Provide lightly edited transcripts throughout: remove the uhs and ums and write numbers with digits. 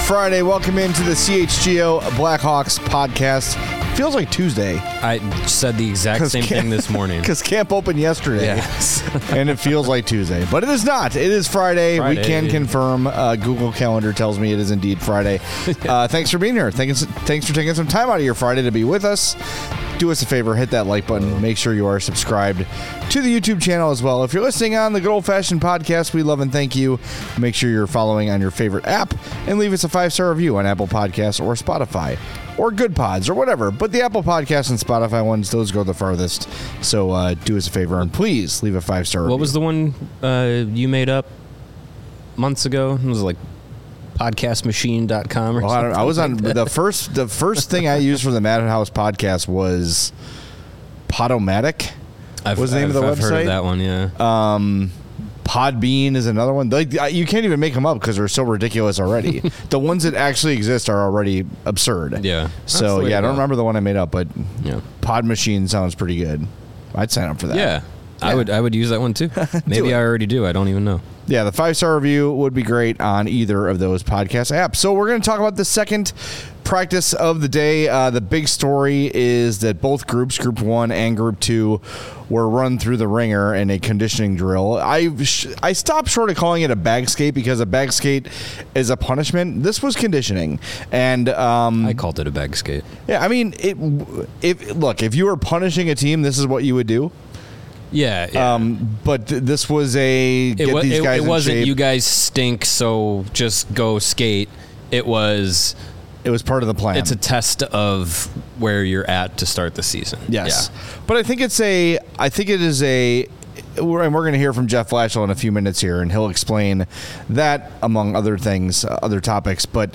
Friday. Welcome into the CHGO Blackhawks podcast. Feels like Tuesday. I said the exact same thing this morning. Because camp opened yesterday. Yes. And it feels like Tuesday. But it is not. It is Friday. We can confirm. Google Calendar tells me it is indeed Friday. Thanks for being here. Thanks for taking some time out of your Friday to be with us. Do us a favor, hit that like button. Make sure you are subscribed to the YouTube channel as well. If you're listening on the Good Old Fashioned Podcast, we love and thank you. Make sure you're following on your favorite app and leave us a 5-star review on Apple Podcasts or Spotify or Good Pods or whatever. But the Apple Podcasts and Spotify ones, those go the farthest. So do us a favor and please leave a 5-star review. What was the one you made up months ago? It was like podcastmachine.com or something. I was on the first thing I used for the Madhouse podcast was Podomatic. What was the name of the website? I've heard of that one, yeah. Podbean is another one. Like, you can't even make them up because they're so ridiculous already. The ones that actually exist are already absurd. Yeah. So, yeah, I don't remember the one I made up, but yeah. Pod Machine sounds pretty good. I'd sign up for that. Yeah. I would use that one too. Maybe I already do. I don't even know. Yeah, the 5-star review would be great on either of those podcast apps. So we're going to talk about the second practice of the day. The big story is that both groups, Group 1 and Group 2, were run through the ringer in a conditioning drill. I stopped short of calling it a bag skate because a bag skate is a punishment. This was conditioning. And I called it a bag skate. Yeah, I mean, if you were punishing a team, this is what you would do. Yeah. But this was these guys in shape. It wasn't you guys stink, so just go skate. It was part of the plan. It's a test of where you're at to start the season. Yes. Yeah. But I think it is and we're going to hear from Jeff Blashill in a few minutes here, and he'll explain that among other things, other topics. But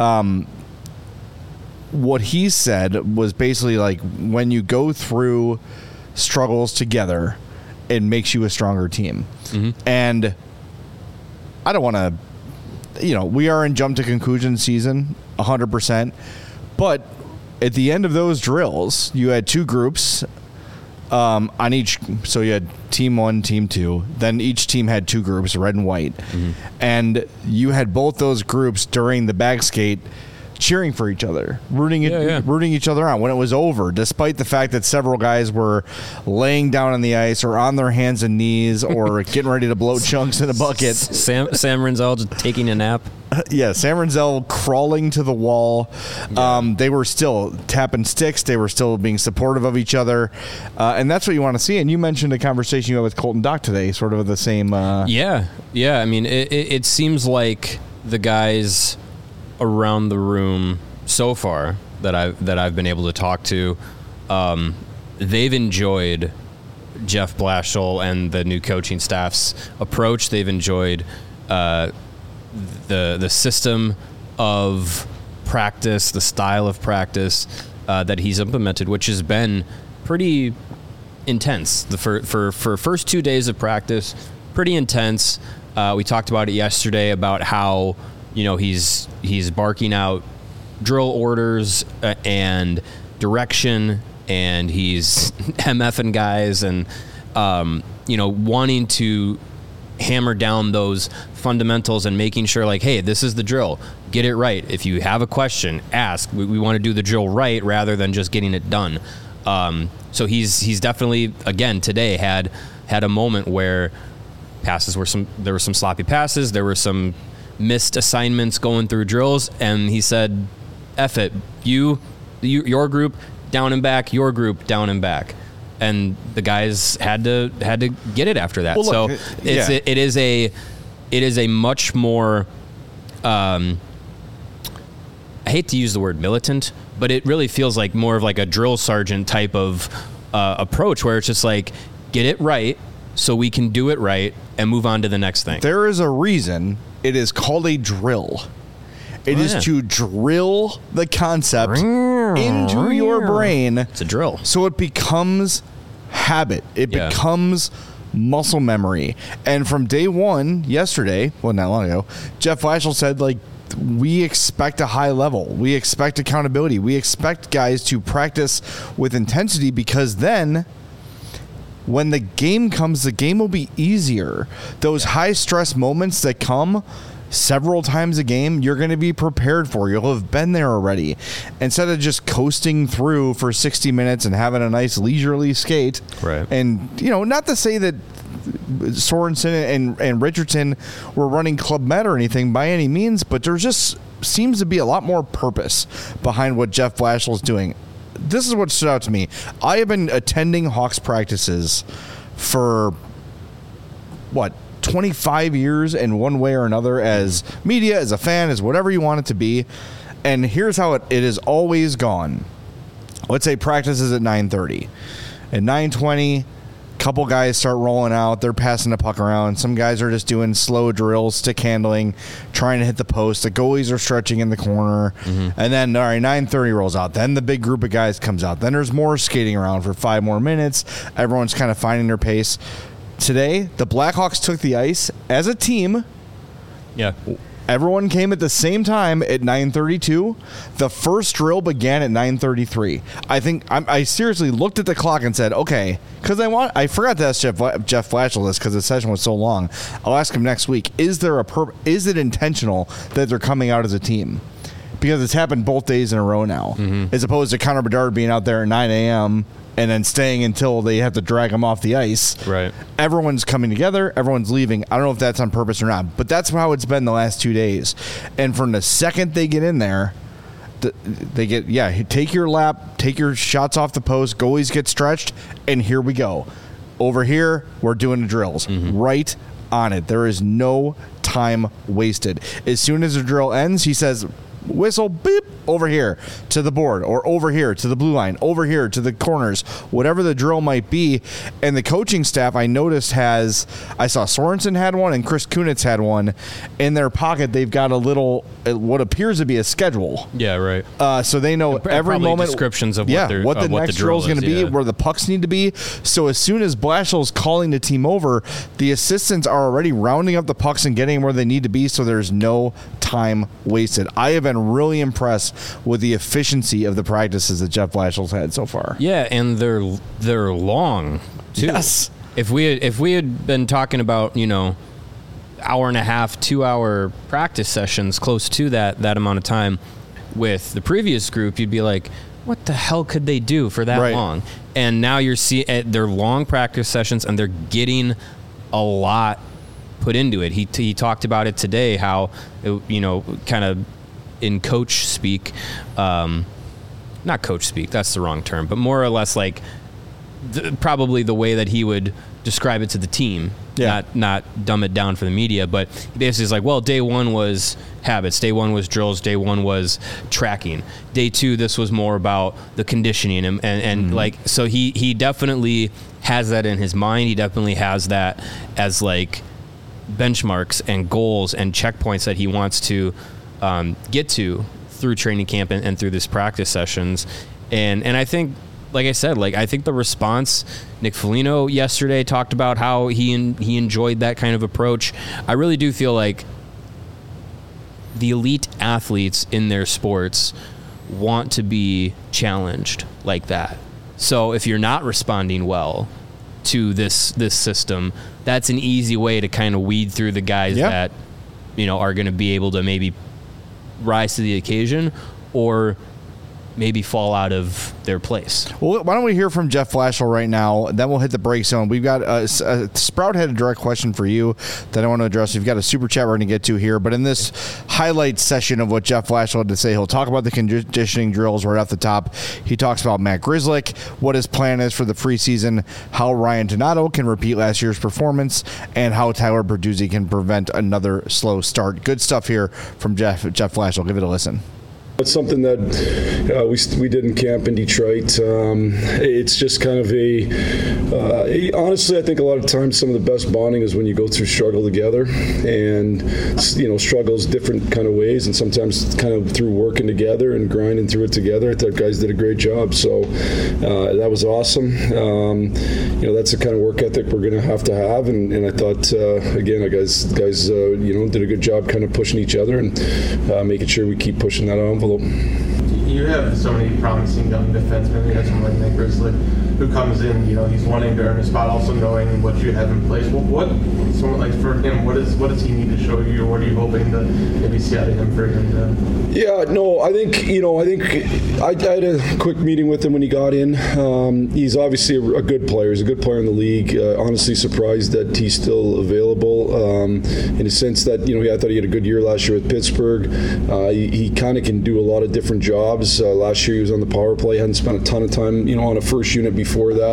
what he said was basically like when you go through struggles together, it makes you a stronger team. Mm-hmm. And I don't want to, we are in jump to conclusion season 100%, but at the end of those drills, you had two groups on each. So you had team 1, team 2, then each team had two groups, red and white. Mm-hmm. And you had both those groups during the bag skate cheering for each other, rooting each other on when it was over, despite the fact that several guys were laying down on the ice or on their hands and knees or getting ready to blow chunks in a bucket. Sam Renzel just taking a nap. Yeah, Sam Renzel crawling to the wall. Yeah. They were still tapping sticks. They were still being supportive of each other. And that's what you want to see. And you mentioned a conversation you had with Colton Dock today, sort of the same. Yeah. I mean, it seems like the guys around the room so far that I've been able to talk to, they've enjoyed Jeff Blashill and the new coaching staff's approach. They've enjoyed the system of practice, the style of practice that he's implemented, which has been pretty intense. For first 2 days of practice, pretty intense. We talked about it yesterday about how he's barking out drill orders and direction, and he's MFing guys and wanting to hammer down those fundamentals and making sure, like, hey, this is the drill, get it right. If you have a question, ask. We want to do the drill right rather than just getting it done. So he's definitely, again, today had a moment where there were some sloppy passes, there were some missed assignments going through drills, and he said, F it, your group down and back, your group down and back. And the guys had to get it after that. Well, look, so it is a much more I hate to use the word militant, but it really feels like more of like a drill sergeant type of approach, where it's just like, get it right so we can do it right and move on to the next thing. There is a reason it is called a drill. It is to drill the concept into your brain. It's a drill. So it becomes habit. It becomes muscle memory. And from day one, yesterday, well, not long ago, Jeff Blashill said, like, we expect a high level. We expect accountability. We expect guys to practice with intensity, because then when the game comes, the game will be easier. Those high stress moments that come, several times a game, you're going to be prepared for. You'll have been there already. Instead of just coasting through for 60 minutes and having a nice leisurely skate. Right. And, not to say that Sorensen and Richardson were running Club Med or anything by any means, but there just seems to be a lot more purpose behind what Jeff Blashill is doing. This is what stood out to me. I have been attending Hawks practices for 25 years in one way or another, as media, as a fan, as whatever you want it to be. And here's how it has always gone. Let's say practice is at 9:30. At 9:20, couple guys start rolling out. They're passing the puck around. Some guys are just doing slow drills, stick handling, trying to hit the post. The goalies are stretching in the corner. And then, all right, 9:30 rolls out. Then the big group of guys comes out. Then there's more skating around for 5 more minutes. Everyone's kind of finding their pace. Today, the Blackhawks took the ice as a team. Yeah. Everyone came at the same time at 9:32. The first drill began at 9:33. I seriously looked at the clock and said, okay, because I forgot to ask Jeff Blashill this because the session was so long. I'll ask him next week. Is it intentional that they're coming out as a team? Because it's happened both days in a row now, as opposed to Connor Bedard being out there at 9 a.m. and then staying until they have to drag him off the ice. Right. Everyone's coming together. Everyone's leaving. I don't know if that's on purpose or not, but that's how it's been the last 2 days. And from the second they get in there, they get, take your lap, take your shots off the post, goalies get stretched, and here we go. Over here, we're doing the drills. Right on it. There is no time wasted. As soon as the drill ends, he says, whistle, beep, over here to the board, or over here to the blue line, over here to the corners, whatever the drill might be. And the coaching staff, I noticed, I saw Sorensen had one and Chris Kunitz had one. In their pocket, they've got a little, what appears to be a schedule. Yeah, right. So they know every moment. Descriptions of what the next drill is going to be, where the pucks need to be. So as soon as Blashill's calling the team over, the assistants are already rounding up the pucks and getting where they need to be, so there's no time wasted. I have been really impressed with the efficiency of the practices that Jeff Blashill's had so far. Yeah, and they're long too. Yes. If we had been talking about, hour and a half, 2 hour practice sessions, close to that amount of time with the previous group, you'd be like, what the hell could they do for that long? And now you're seeing they're long practice sessions and they're getting a lot put into it. He talked about it today, how, kind of in coach speak, not coach speak, that's the wrong term, but more or less like probably the way that he would describe it to the team, not dumb it down for the media, but basically it's like, well, day one was habits, day one was drills, day one was tracking, day two, this was more about the conditioning, and like, so he definitely has that in his mind. He definitely has that as like benchmarks and goals and checkpoints that he wants to get to through training camp and through this practice sessions. And I think, like I said, I think the response, Nick Foligno yesterday talked about how he enjoyed that kind of approach. I really do feel like the elite athletes in their sports want to be challenged like that. So if you're not responding well to this system, that's an easy way to kind of weed through the guys that, are going to be able to maybe rise to the occasion or maybe fall out of their place. Well, why don't we hear from Jeff Blashill right now? Then we'll hit the break zone. We've got Sprout had a direct question for you that I want to address. We've got a super chat we're going to get to here. But in this highlight session of what Jeff Blashill had to say, he'll talk about the conditioning drills right off the top. He talks about Matt Grzelcyk, what his plan is for the preseason, how Ryan Donato can repeat last year's performance, and how Tyler Bertuzzi can prevent another slow start. Good stuff here from Jeff Blashill. Give it a listen. It's something that we did in camp in Detroit. It's just kind of honestly, I think a lot of times some of the best bonding is when you go through struggle together, and struggles different kind of ways, and sometimes kind of through working together and grinding through it together. I thought guys did a great job, so that was awesome. That's the kind of work ethic we're going to have, and I thought again, the guys did a good job kind of pushing each other and making sure we keep pushing that envelope. You you have so many promising young defensemen. You have someone like Nick Grizzly who comes in, he's wanting to earn a spot, also knowing what you have in place. What someone like for him, what does he need to show you, or what are you hoping to maybe see out of him for him to? Yeah, no, I think I had a quick meeting with him when he got in. He's obviously a good player. He's a good player in the league. Honestly, surprised that he's still available. In a sense that I thought he had a good year last year with Pittsburgh. He kind of can do a lot of different jobs. Last year he was on the power play. Hadn't spent a ton of time on a first unit before that.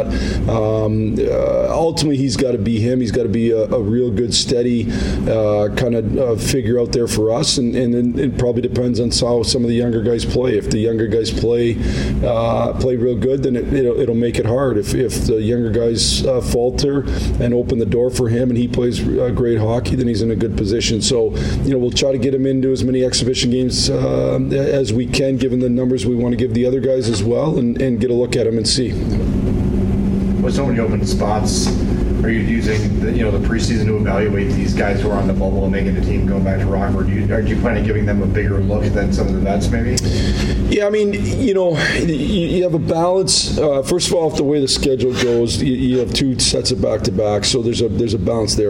Ultimately, he's got to be him. He's got to be a real good, steady kind of figure out there for us. And it probably depends on how some of the younger guys play. If the younger guys play real good, then it'll make it hard. If the younger guys falter and open the door for him, and he plays great hockey, then he's in a good position. So we'll try to get him into as many exhibition games as we can, given the numbers we want to give the other guys as well, and get a look at him and see. With so many open spots, are you using the preseason to evaluate these guys who are on the bubble and making the team going back to Rockford? Are you planning on giving them a bigger look than some of the vets maybe? Yeah, I mean, you have a balance. First of all, the way the schedule goes, you have two sets of back-to-back, so there's a balance there.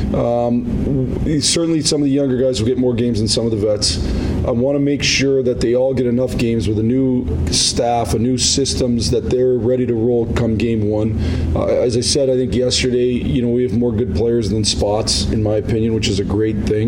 Certainly some of the younger guys will get more games than some of the vets. I want to make sure that they all get enough games with a new staff, a new systems, that they're ready to roll come game one. As I said, I think yesterday, we have more good players than spots, in my opinion, which is a great thing.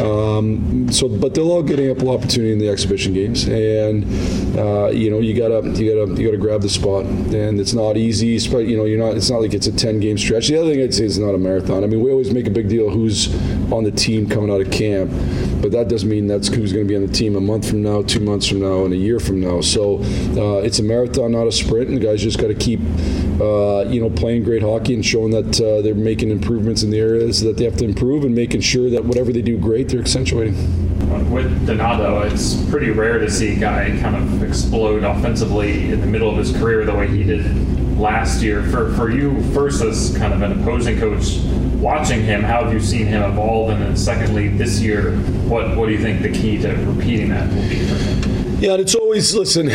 But they'll all get ample opportunity in the exhibition games, and you gotta grab the spot, and it's not easy. It's not like it's a 10-game stretch. The other thing I'd say is it's not a marathon. I mean, we always make a big deal who's on the team coming out of camp, but that doesn't mean that's who's going to be on the team a month from now, 2 months from now, and a year from now. So it's a marathon, not a sprint, and the guys just got to keep playing great hockey and showing that they're making improvements in the areas that they have to improve, and making sure that whatever they do great, they're accentuating. With Donato, it's pretty rare to see a guy kind of explode offensively in the middle of his career the way he did last year. For you, first as kind of an opposing coach, watching him, how have you seen him evolve? And then secondly, this year, what do you think the key to repeating that will be for him? Yeah, and it's always, listen,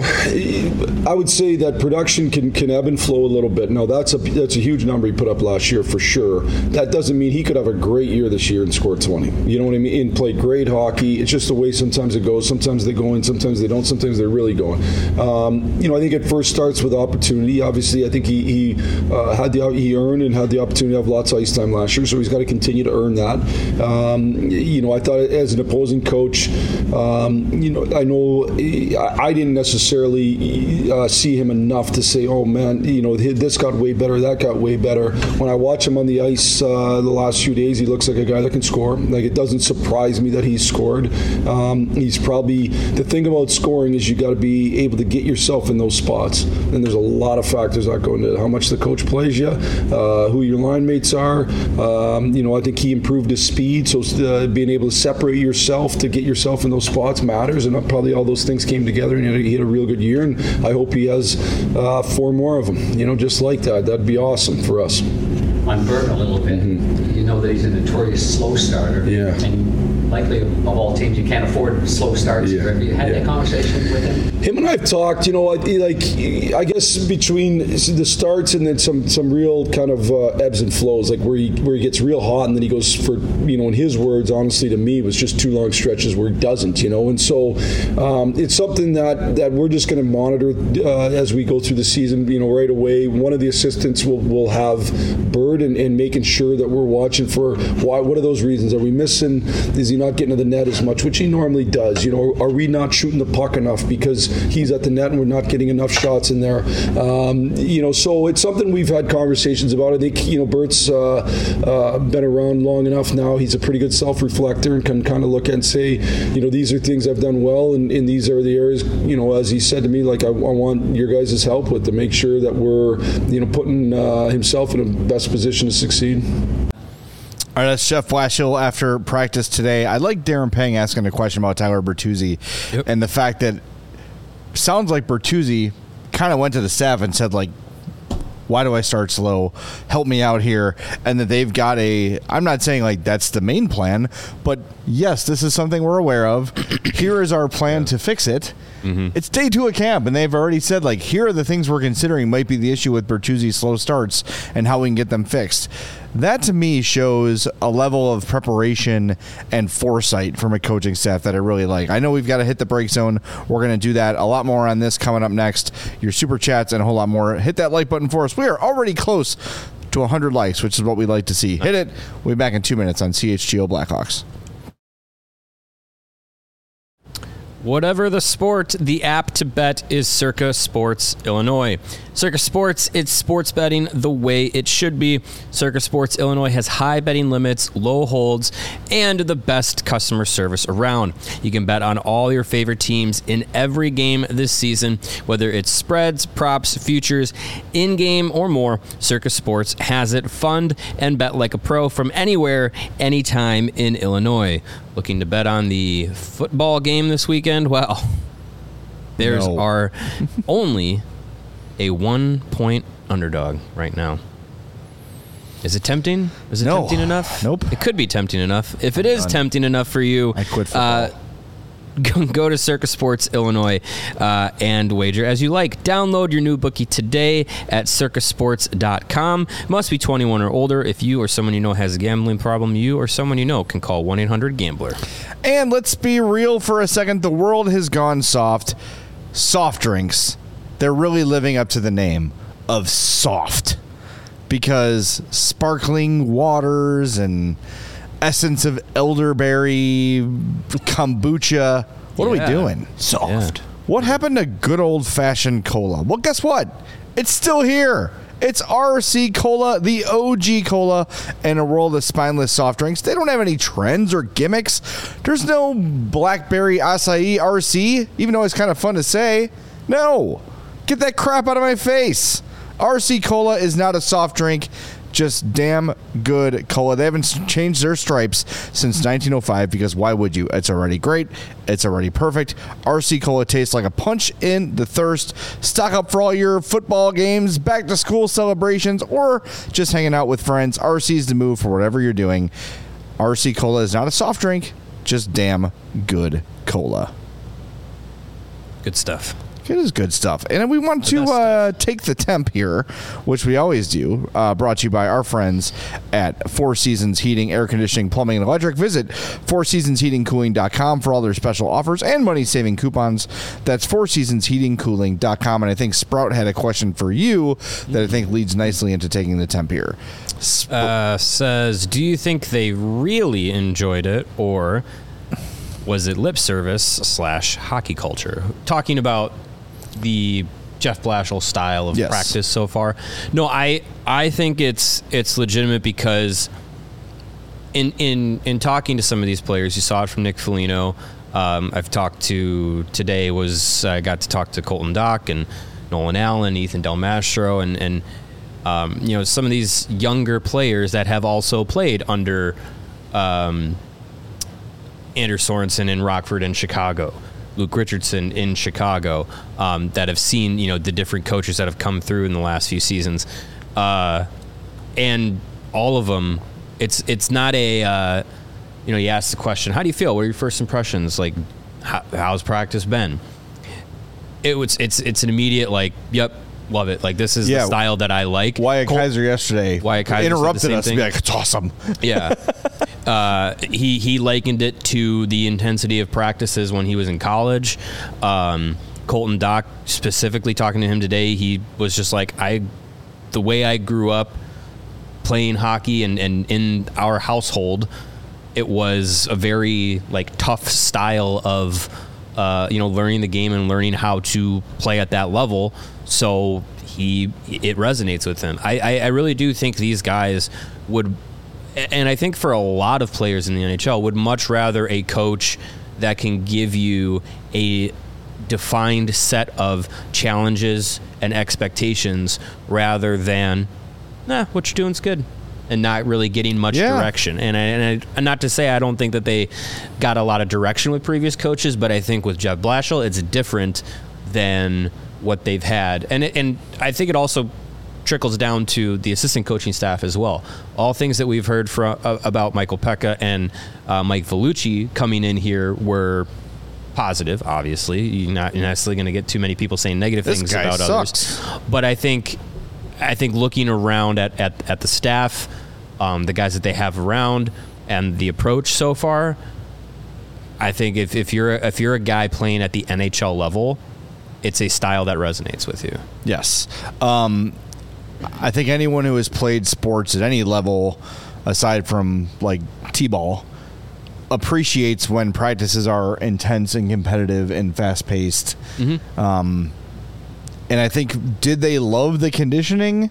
I would say that production can ebb and flow a little bit. No, that's a huge number he put up last year for sure. That doesn't mean he could have a great year this year and score 20. You know what I mean? And play great hockey. It's just the way sometimes it goes. Sometimes they go in, sometimes they don't. Sometimes they're really going. I think it first starts with opportunity. Obviously, I think he earned and had the opportunity to have lots of ice time last year, so he's got to continue to earn that. I thought as an opposing coach, I know I didn't necessarily see him enough to say, oh man, this got way better, that got way better. When I watch him on the ice the last few days, he looks like a guy that can score. Like, it doesn't surprise me that he's scored. He's probably, the thing about scoring is you got to be able to get yourself in those spots. And there's a lot of factors that go into it. How much the coach plays you, who your line mates are. I think he improved his speed, so being able to separate yourself to get yourself in those spots matters, and probably all those things came together, and he had a real good year, and I hope he has 4 more of them, just like that. That'd be awesome for us. On Bert a little bit, you know that he's a notorious slow starter. Yeah. And likely of all teams, you can't afford slow starts. Yeah. Have you had that conversation with him? Him and I have talked, I guess between the starts and then some real kind of ebbs and flows, like where he gets real hot and then he goes for, in his words, honestly to me, was just 2 long stretches where he doesn't, and so it's something that we're just going to monitor as we go through the season, right away. One of the assistants will have Bird and making sure that we're watching for what are those reasons? Are we missing? Is he not getting to the net as much, which he normally does? Are we not shooting the puck enough because he's at the net and we're not getting enough shots in there? So it's something we've had conversations about. I think, Bert's been around long enough now. He's a pretty good self-reflector and can kind of look and say, these are things I've done well, and these are the areas, as he said to me, like, I want your guys' help with to make sure that we're, putting himself in the best position to succeed. All right, that's Jeff Blashill after practice today. I like Darren Pang asking a question about Tyler Bertuzzi and the fact that sounds like Bertuzzi kind of went to the staff and said, like, why do I start slow? Help me out here. And that they've got I'm not saying like that's the main plan, but yes, this is something we're aware of. Here is our plan to fix it. It's day 2 of camp, and they've already said, like, here are the things we're considering might be the issue with Bertuzzi's slow starts and how we can get them fixed. That, to me, shows a level of preparation and foresight from a coaching staff that I really like. I know we've got to hit the break zone. We're going to do that. A lot more on this coming up next. Your super chats and a whole lot more. Hit that like button for us. We are already close to 100 likes, which is what we like to see. Hit it. We'll be back in 2 minutes on CHGO Blackhawks. Whatever the sport, the app to bet is Circa Sports Illinois. Circa Sports, it's sports betting the way it should be. Circa Sports Illinois has high betting limits, low holds, and the best customer service around. You can bet on all your favorite teams in every game this season, whether it's spreads, props, futures, in-game, or more. Circa Sports has it. Fund and bet like a pro from anywhere, anytime in Illinois. Looking to bet on the football game this weekend? Well, there's are only a 1-point underdog right now. Is it tempting? Is it tempting enough? Nope. It could be tempting enough. If it is tempting enough for you, I quit football. Go to Circa Sports Illinois and wager as you like. Download your new bookie today at circasports.com. Must be 21 or older. If you or someone you know has a gambling problem, you or someone you know can call 1-800-GAMBLER. And let's be real for a second. The world has gone soft. Soft drinks. They're really living up to the name of soft. Because sparkling waters and essence of elderberry, kombucha. What are we doing? Soft. Yeah. What happened to good old-fashioned cola? Well, guess what? It's still here. It's RC Cola, the OG cola, in a world of spineless soft drinks. They don't have any trends or gimmicks. There's no blackberry acai RC, even though it's kind of fun to say. No. Get that crap out of my face. RC Cola is not a soft drink. Just damn good cola. They haven't changed their stripes since 1905 because why would you? It's already great. It's already perfect. RC Cola tastes like a punch in the thirst. Stock up for all your football games, back to school celebrations, or just hanging out with friends. RC's the move for whatever you're doing. RC Cola is not a soft drink, just damn good cola. Good stuff. It is good stuff. And we want to take the temp here, which we always do, brought to you by our friends at Four Seasons Heating, Air Conditioning, Plumbing, and Electric. Visit fourseasonsheatingcooling.com for all their special offers and money-saving coupons. That's fourseasonsheatingcooling.com. And I think Sprout had a question for you that I think leads nicely into taking the temp here. Says, do you think they really enjoyed it, or was it lip service / hockey culture? Talking about the Jeff Blashill style of practice so far. No, I think it's legitimate because in talking to some of these players, you saw it from Nick Foligno. I've talked to today I got to talk to Colton Dock and Nolan Allen, Ethan Del Mastro, and some of these younger players that have also played under Anders Sorensen in Rockford and Chicago, Luke Richardson in Chicago, that have seen, the different coaches that have come through in the last few seasons. And all of them, it's not a, you ask the question, how do you feel? What are your first impressions? Like, how's practice been? It's an immediate, like, yep, love it. Like, this is the style that I like. Wyatt Kaiser yesterday interrupted us and be like, it's awesome. Yeah. He likened it to the intensity of practices when he was in college. Colton Dock, specifically talking to him today, he was just like, the way I grew up playing hockey and in our household, it was a very tough style of learning the game and learning how to play at that level. So it resonates with him. I really do think these guys would. And I think for a lot of players in the NHL would much rather a coach that can give you a defined set of challenges and expectations rather than, what you're doing's good, and not really getting much direction. And not to say I don't think that they got a lot of direction with previous coaches, but I think with Jeff Blashill, it's different than what they've had. And I think it also trickles down to the assistant coaching staff as well. All things that we've heard about Michael Pekka and Mike Vellucci coming in here were positive. Obviously, you're not necessarily going to get too many people saying negative things about others. But I think looking around at the staff, the guys that they have around, and the approach so far, I think if you're a guy playing at the NHL level, it's a style that resonates with you. Yes. I think anyone who has played sports at any level, aside from like T-ball, appreciates when practices are intense and competitive and fast-paced. And I think, did they love the conditioning?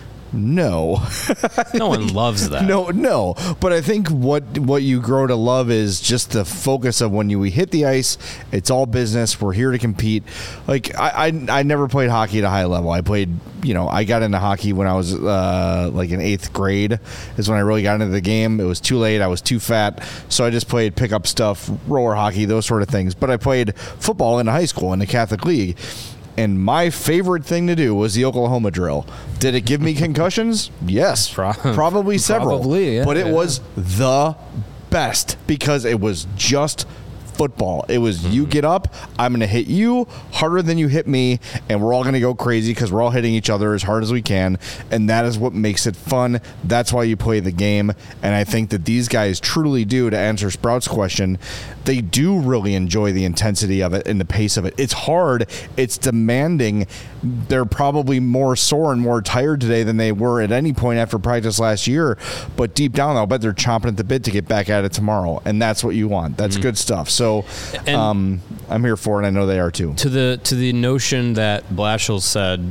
No. No one loves that. No. But I think what you grow to love is just the focus of when we hit the ice, it's all business. We're here to compete. Like, I never played hockey at a high level. I played, I got into hockey when I was like in 8th grade is when I really got into the game. It was too late. I was too fat. So I just played pickup stuff, roller hockey, those sort of things. But I played football in high school in the Catholic League. And my favorite thing to do was the Oklahoma drill. Did it give me concussions? Yes. Probably several. Probably, yeah. But it was the best because it was just football. It was you get up, I'm going to hit you harder than you hit me, and we're all going to go crazy because we're all hitting each other as hard as we can, and that is what makes it fun. That's why you play the game, and I think that these guys truly do, to answer Sprout's question, they do really enjoy the intensity of it and the pace of it. It's hard. It's demanding. They're probably more sore and more tired today than they were at any point after practice last year, but deep down, I'll bet they're chomping at the bit to get back at it tomorrow, and that's what you want. That's good stuff. So I'm here for it. I know they are too. To the notion that Blashill said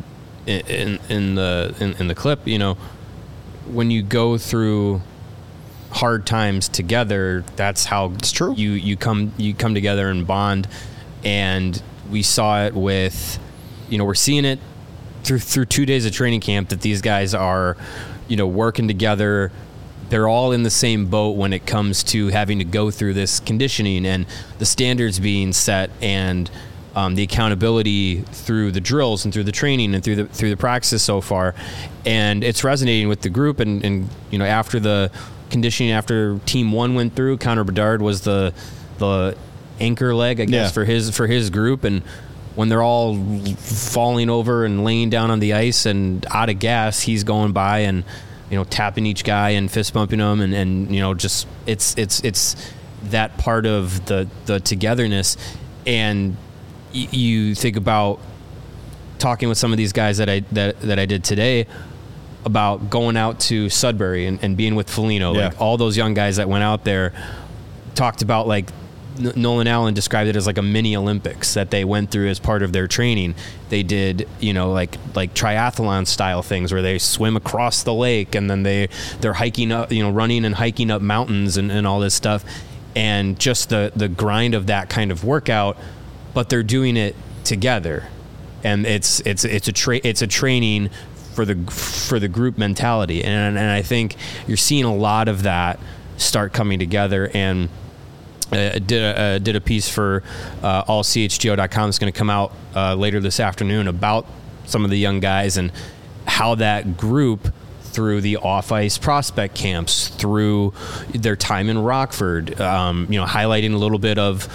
in the clip, when you go through hard times together, that's how it's true. You come together and bond, and we saw it with, we're seeing it through 2 days of training camp that these guys are, working together. They're all in the same boat when it comes to having to go through this conditioning and the standards being set and the accountability through the drills and through the training and through the practices so far. And it's resonating with the group. And after the conditioning, after Team 1 went through, Connor Bedard was the anchor leg, I guess, for his group. And when they're all falling over and laying down on the ice and out of gas, he's going by and tapping each guy and fist bumping them, and just it's that part of the togetherness. And you think about talking with some of these guys that I did today about going out to Sudbury and being with Foligno. Like all those young guys that went out there talked about, like, Nolan Allen described it as like a mini Olympics that they went through as part of their training. They did, like triathlon style things where they swim across the lake and then they're hiking up, running and hiking up mountains and all this stuff. And just the grind of that kind of workout, but they're doing it together. And it's a training for the group mentality. And I think you're seeing a lot of that start coming together. And did a piece for allchgo.com that's going to come out later this afternoon about some of the young guys and how that group, through the off-ice prospect camps, through their time in Rockford, highlighting a little bit of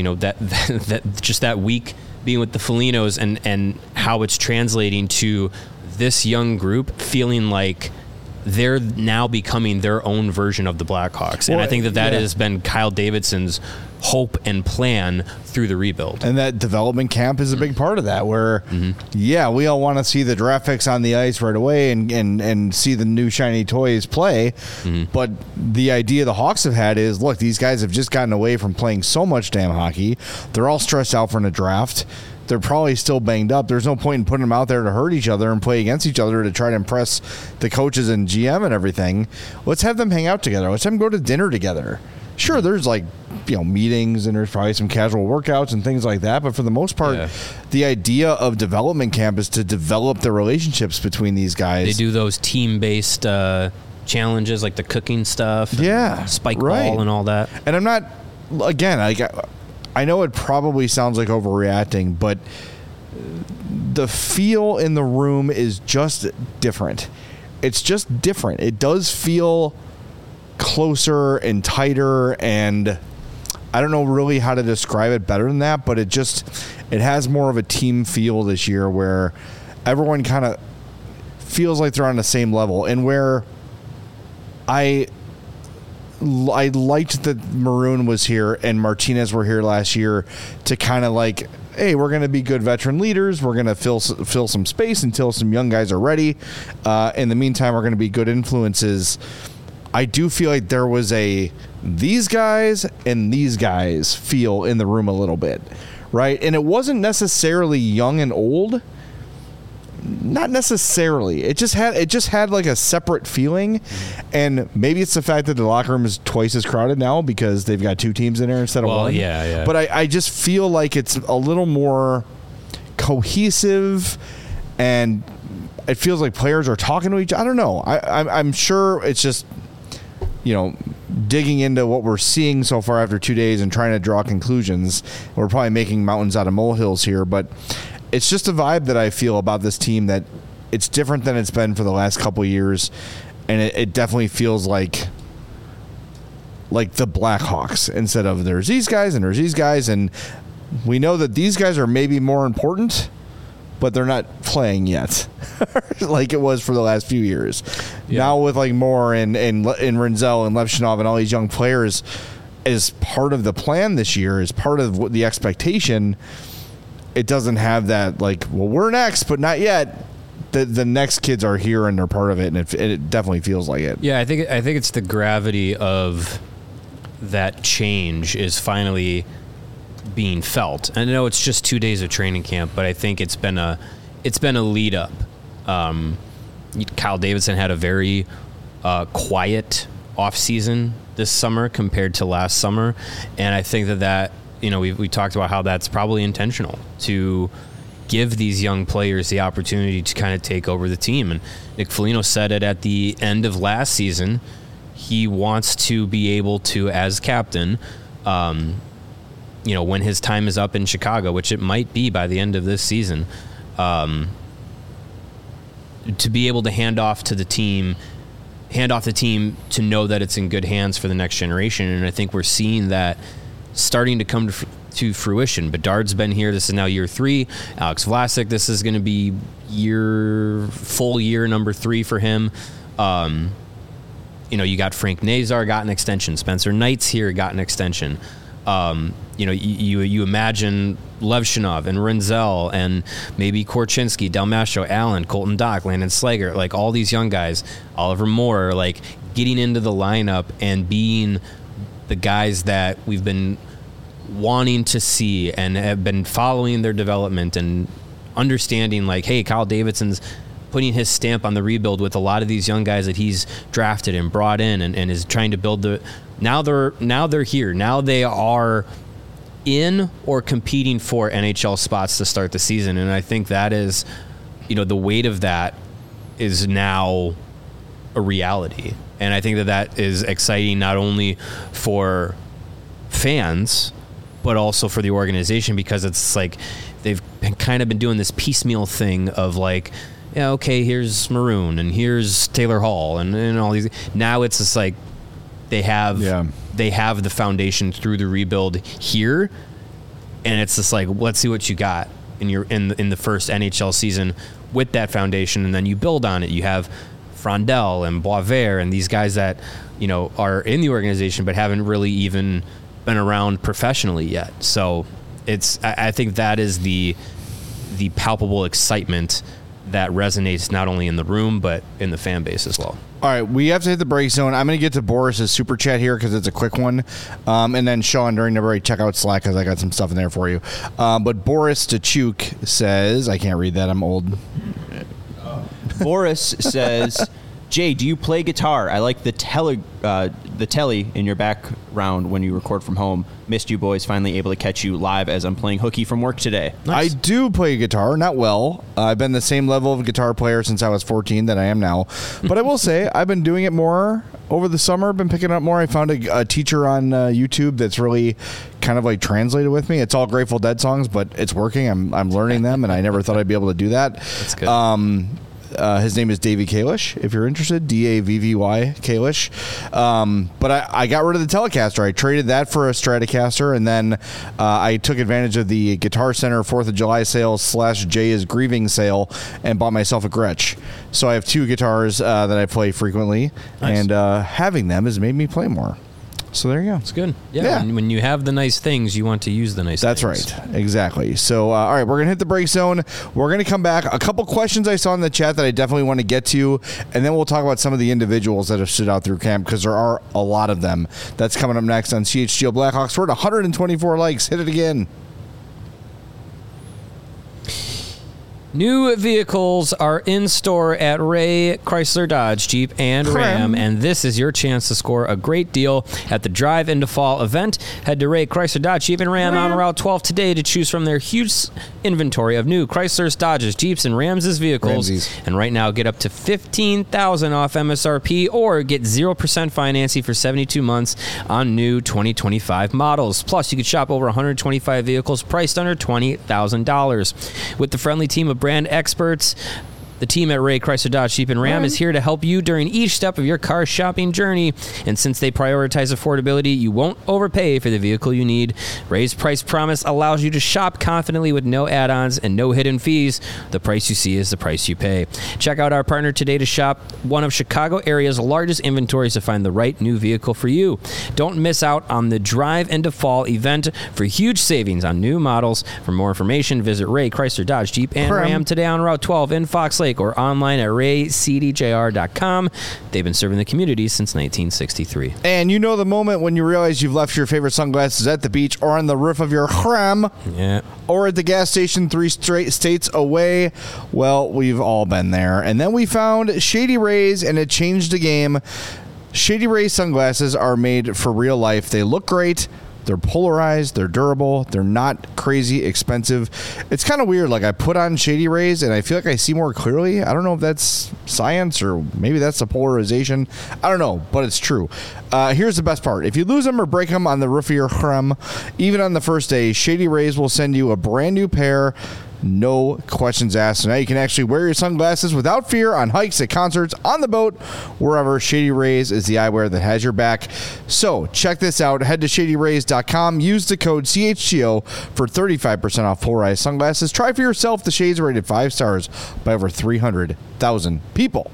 that just that week being with the Folignos and how it's translating to this young group feeling like they're now becoming their own version of the Blackhawks. And I think that has been Kyle Davidson's hope and plan through the rebuild. And that development camp is a big part of that, where, we all want to see the draft picks on the ice right away and see the new shiny toys play. But the idea the Hawks have had is, look, these guys have just gotten away from playing so much damn hockey. They're all stressed out from the draft. They're probably still banged up. There's no point in putting them out there to hurt each other and play against each other to try to impress the coaches and GM and everything. Let's have them hang out together. Let's have them go to dinner together. Sure, there's meetings and there's probably some casual workouts and things like that. But for the most part, the idea of development camp is to develop the relationships between these guys. They do those team-based challenges like the cooking stuff, spike ball and all that. And I'm not, again, I know it probably sounds like overreacting, but the feel in the room is just different. It's just different. It does feel closer and tighter, and I don't know really how to describe it better than that, but it has more of a team feel this year where everyone kind of feels like they're on the same level, and where I liked that Maroon was here and Martinez were here last year to kind of like, hey, we're going to be good veteran leaders. We're going to fill some space until some young guys are ready. In the meantime, we're going to be good influences. I do feel like there was these guys and these guys feel in the room a little bit, right? And it wasn't necessarily young and old. Not necessarily. It just had like a separate feeling, and maybe it's the fact that the locker room is twice as crowded now because they've got 2 teams in there instead of one. Yeah. But I just feel like it's a little more cohesive, and it feels like players are talking to each other. I don't know. I'm sure it's just, digging into what we're seeing so far after 2 days and trying to draw conclusions. We're probably making mountains out of molehills here, but it's just a vibe that I feel about this team that it's different than it's been for the last couple of years, and it definitely feels like the Blackhawks instead of there's these guys and there's these guys, and we know that these guys are maybe more important, but they're not playing yet like it was for the last few years. Yeah. Now with like Moore and Renzel and Levshunov and all these young players as part of the plan this year, as part of the expectation, it doesn't have that like, well, we're next, but not yet. The next kids are here and they're part of it, and it definitely feels like it. Yeah, I think it's the gravity of that change is finally being felt. I know it's just 2 days of training camp, but I think it's been a lead up. Kyle Davidson had a very quiet off season this summer compared to last summer, and I think that we talked about how that's probably intentional to give these young players the opportunity to kind of take over the team. And Nick Foligno said it at the end of last season. He wants to be able to, as captain, when his time is up in Chicago, which it might be by the end of this season, to be able to hand off the team to know that it's in good hands for the next generation. And I think we're seeing that starting to come to fruition. Bedard's been here. This is now year 3. Alex Vlasic, this is going to be full year number 3 for him. You got Frank Nazar got an extension. Spencer Knight's here, got an extension. You imagine Levshunov and Renzel and maybe Korchinski, Del Mastro, Allen, Colton Dock, Landon Slager, like all these young guys, Oliver Moore, like getting into the lineup and being the guys that we've been wanting to see and have been following their development and understanding like, hey, Kyle Davidson's putting his stamp on the rebuild with a lot of these young guys that he's drafted and brought in and is trying to build now they're here. Now they are in or competing for NHL spots to start the season. And I think that is, the weight of that is now a reality. And I think that is exciting not only for fans, but also for the organization, because it's like they've kind of been doing this piecemeal thing of like, yeah, okay, here's Maroon and here's Taylor Hall and all these. Now it's just like they have the foundation through the rebuild here, and it's just like, let's see what you got in the first NHL season with that foundation, and then you build on it. You have Frondel and Boisvert and these guys that are in the organization but haven't really even been around professionally yet. So I think that is the palpable excitement that resonates not only in the room but in the fan base as well. All right, we have to hit the break zone. I'm going to get to Boris's super chat here because it's a quick one, and then Sean, during the break, check out Slack because I got some stuff in there for you. But Boris Tachuk says, I can't read that, I'm old. Boris says, Jay, do you play guitar? I like the the telly in your background when you record from home. Missed you boys. Finally able to catch you live as I'm playing hooky from work today. I do play guitar, not well. I've been the same level of guitar player since I was 14 that I am now. But I will say I've been doing it more over the summer. Been picking up more. I found a teacher on YouTube that's really kind of like translated with me. It's all Grateful Dead songs, but it's working. I'm learning them, and I never thought I'd be able to do that. That's good. His name is Davey Kalish, if you're interested, Davvy Kalish. But I got rid of the Telecaster. I traded that for a Stratocaster, and then I took advantage of the Guitar Center 4th of July sale / Jay is Grieving sale and bought myself a Gretsch. So I have 2 guitars that I play frequently, and having them has made me play more. So there you go. It's good. Yeah. When you have the nice things, you want to use the nice things. That's right. Exactly. So, all right, we're going to hit the break zone. We're going to come back. A couple questions I saw in the chat that I definitely want to get to, and then we'll talk about some of the individuals that have stood out through camp, because there are a lot of them. That's coming up next on CHGO Blackhawks. We're at 124 likes. Hit it again. New vehicles are in store at Ray Chrysler Dodge Jeep and Ram, and this is your chance to score a great deal at the Drive into Fall event. Head to Ray Chrysler Dodge Jeep and Ram on Route 12 today to choose from their huge inventory of new Chryslers, Dodges, Jeeps, and Rams' vehicles. And right now, get up to $15,000 off MSRP or get 0% financing for 72 months on new 2025 models. Plus, you could shop over 125 vehicles priced under $20,000. With the friendly team of brand experts, the team at Ray Chrysler Dodge Jeep and Ram is here to help you during each step of your car shopping journey. And since they prioritize affordability, you won't overpay for the vehicle you need. Ray's price promise allows you to shop confidently with no add-ons and no hidden fees. The price you see is the price you pay. Check out our partner today to shop one of Chicago area's largest inventories to find the right new vehicle for you. Don't miss out on the Drive into Fall event for huge savings on new models. For more information, visit Ray Chrysler Dodge Jeep and Ram today on Route 12 in Fox Lake, or online at raycdjr.com. They've been serving the community since 1963. And you know the moment when you realize you've left your favorite sunglasses at the beach or on the roof of your Ram, or at the gas station 3 straight states away. Well, we've all been there. And then we found Shady Rays, and it changed the game. Shady Rays sunglasses are made for real life. They look great. They're polarized, they're durable, they're not crazy expensive. It's kind of weird. Like, I put on Shady Rays and I feel like I see more clearly. I don't know if that's science or maybe that's the polarization. I don't know, but it's true. Here's the best part. If you lose them or break them on the roof of your Ram, even on the first day, Shady Rays will send you a brand new pair. No questions asked. So now you can actually wear your sunglasses without fear on hikes, at concerts, on the boat, wherever. Shady Rays is the eyewear that has your back. So check this out. Head to shadyrays.com. Use the code CHGO for 35% off polarized sunglasses. Try for yourself. The shades are rated 5 stars by over 300,000 people.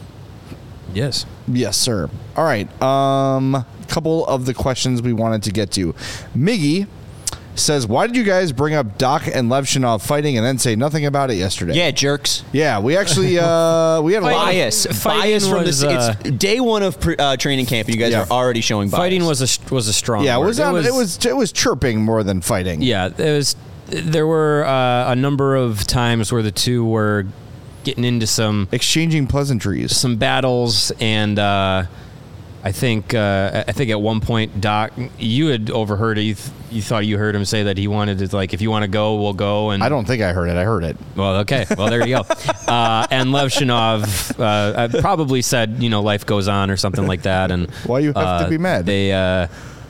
Yes. Yes, sir. All right. Couple of the questions we wanted to get to. Miggy says, why did you guys bring up Doc and Levshinov fighting and then say nothing about it yesterday? Yeah, jerks. Yeah, we actually we had a bias from this. It's day one of training camp, and you guys are already showing bias. Fighting was a strong. Yeah, word. It was chirping more than fighting. Yeah, there were a number of times where the two were getting into some exchanging pleasantries, some battles, and I think at one point, Doc, you had overheard it. You thought you heard him say that he wanted to, like, if you want to go, we'll go. And I don't think I heard it. I heard it. Well, okay. Well, there you go. And Levshinov probably said, life goes on or something like that. And why you have to be mad? They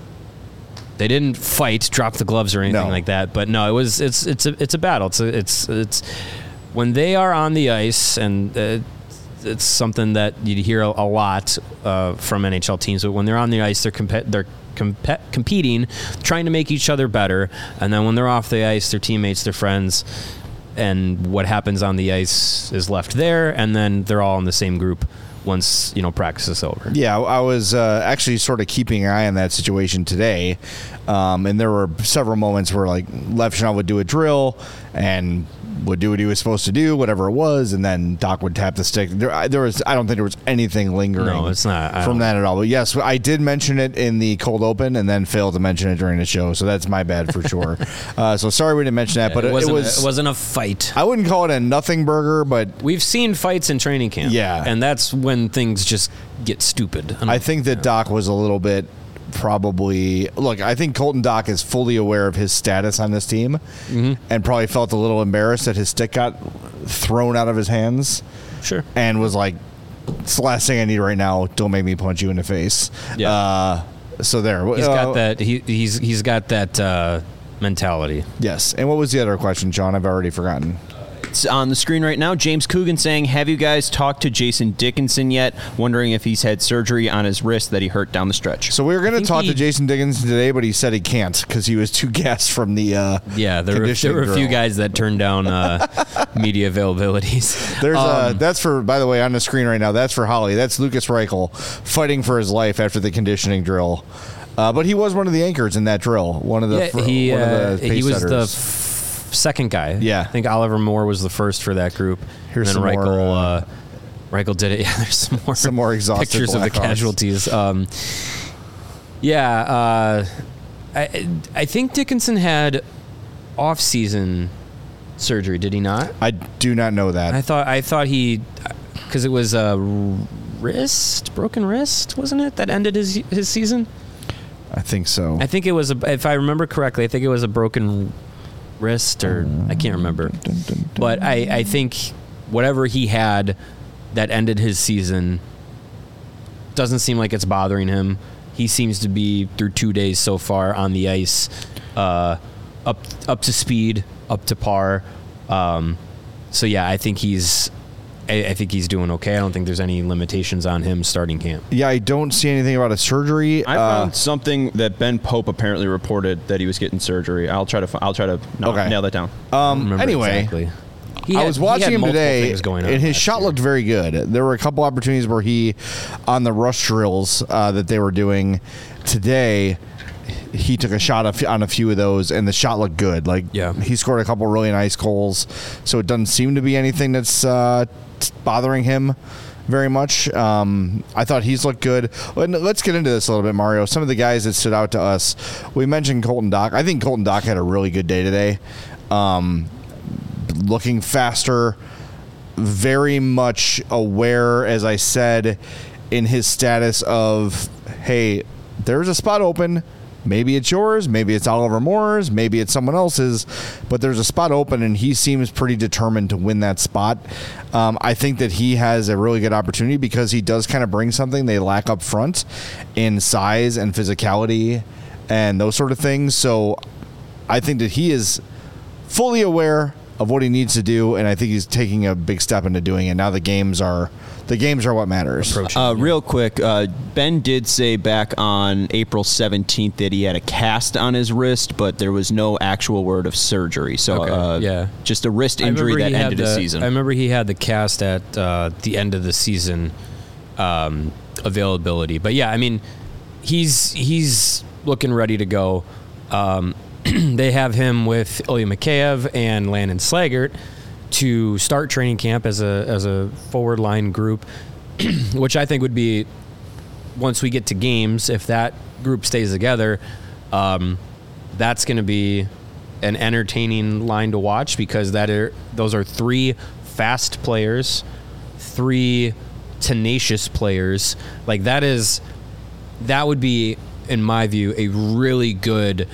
didn't fight, drop the gloves or anything like that. But no, it's a battle. It's when they are on the ice, and it's something that you hear a lot from NHL teams. But when they're on the ice, they're competing, trying to make each other better. And then when they're off the ice, their teammates, their friends, and what happens on the ice is left there. And then they're all in the same group once practice is over. Yeah, I was actually sort of keeping an eye on that situation today, and there were several moments where, like, Levshinov would do a drill and would do what he was supposed to do, whatever it was, and then Doc would tap the stick. I don't think there was anything lingering. No, it's not. From that at all. But yes, I did mention it in the cold open and then failed to mention it during the show, so that's my bad for sure. So sorry we didn't mention that, but it wasn't a fight. I wouldn't call it a nothing burger, but We've seen fights in training camp. Yeah. And that's when things just get stupid. I think that Doc was a little bit probably look. I think Colton Doc is fully aware of his status on this team, and probably felt a little embarrassed that his stick got thrown out of his hands. Sure. And was like, "It's the last thing I need right now. Don't make me punch you in the face." Yeah. So there. He's got that. He's got that mentality. Yes. And what was the other question, Sean? I've already forgotten. It's on the screen right now. James Coogan saying, have you guys talked to Jason Dickinson yet? Wondering if he's had surgery on his wrist that he hurt down the stretch. So we were going to talk to Jason Dickinson today, but he said he can't because he was too gassed from the there were a few guys that turned down media availabilities. There's that's for, by the way, on the screen right now, that's for Holly. That's Lucas Reichel fighting for his life after the conditioning drill. But he was one of the anchors in that drill. One of the pace he was setters. the second guy. Yeah. I think Oliver Moore was the first for that group. Here's and then some more, Reichel did it. Yeah, there's some more exhausted pictures of the Blackhawks. casualties. I think Dickinson had off-season surgery. Did he not? I do not know that. I thought he, because it was a broken wrist, wasn't it? That ended his season. I think so. I think it was if I remember correctly, I think it was a broken wrist, or I can't remember. But I think whatever he had that ended his season doesn't seem like it's bothering him. He seems to be, through 2 days so far on the ice, up to speed, up to par. So yeah, I think he's doing okay. I don't think there's any limitations on him starting camp. Yeah, I don't see anything about a surgery. I found something that Ben Pope apparently reported that he was getting surgery. I'll try to nail that down. Anyway, exactly. I was watching him today, and his shot looked very good. There were a couple opportunities where he, on the rush drills that they were doing today, he took a shot on a few of those, and the shot looked good. He scored a couple really nice goals, so it doesn't seem to be anything that's bothering him very much. I thought he's looked good. Let's get into this a little bit, Mario. Some of the guys that stood out to us. We mentioned Colton Doc. I think Colton Doc had a really good day today. Looking faster, very much aware, as I said, in his status of, hey, there's a spot open. Maybe it's yours, maybe it's Oliver Moore's, maybe it's someone else's, but there's a spot open, and he seems pretty determined to win that spot. I think that he has a really good opportunity because he does kind of bring something they lack up front in size and physicality and those sort of things. So I think that he is fully aware of what he needs to do, and I think he's taking a big step into doing it. Now the games are what matters. Real quick, Ben did say back on April 17th that he had a cast on his wrist, but there was no actual word of surgery. So just a wrist injury that ended the season. I remember he had the cast at the end of the season availability. But yeah, I mean, he's looking ready to go. They have him with Ilya Mikheyev and Landon Slaggert to start training camp as a forward line group, which I think would be, once we get to games, if that group stays together, that's going to be an entertaining line to watch, because those are three fast players, three tenacious players. That would be, in my view, a really good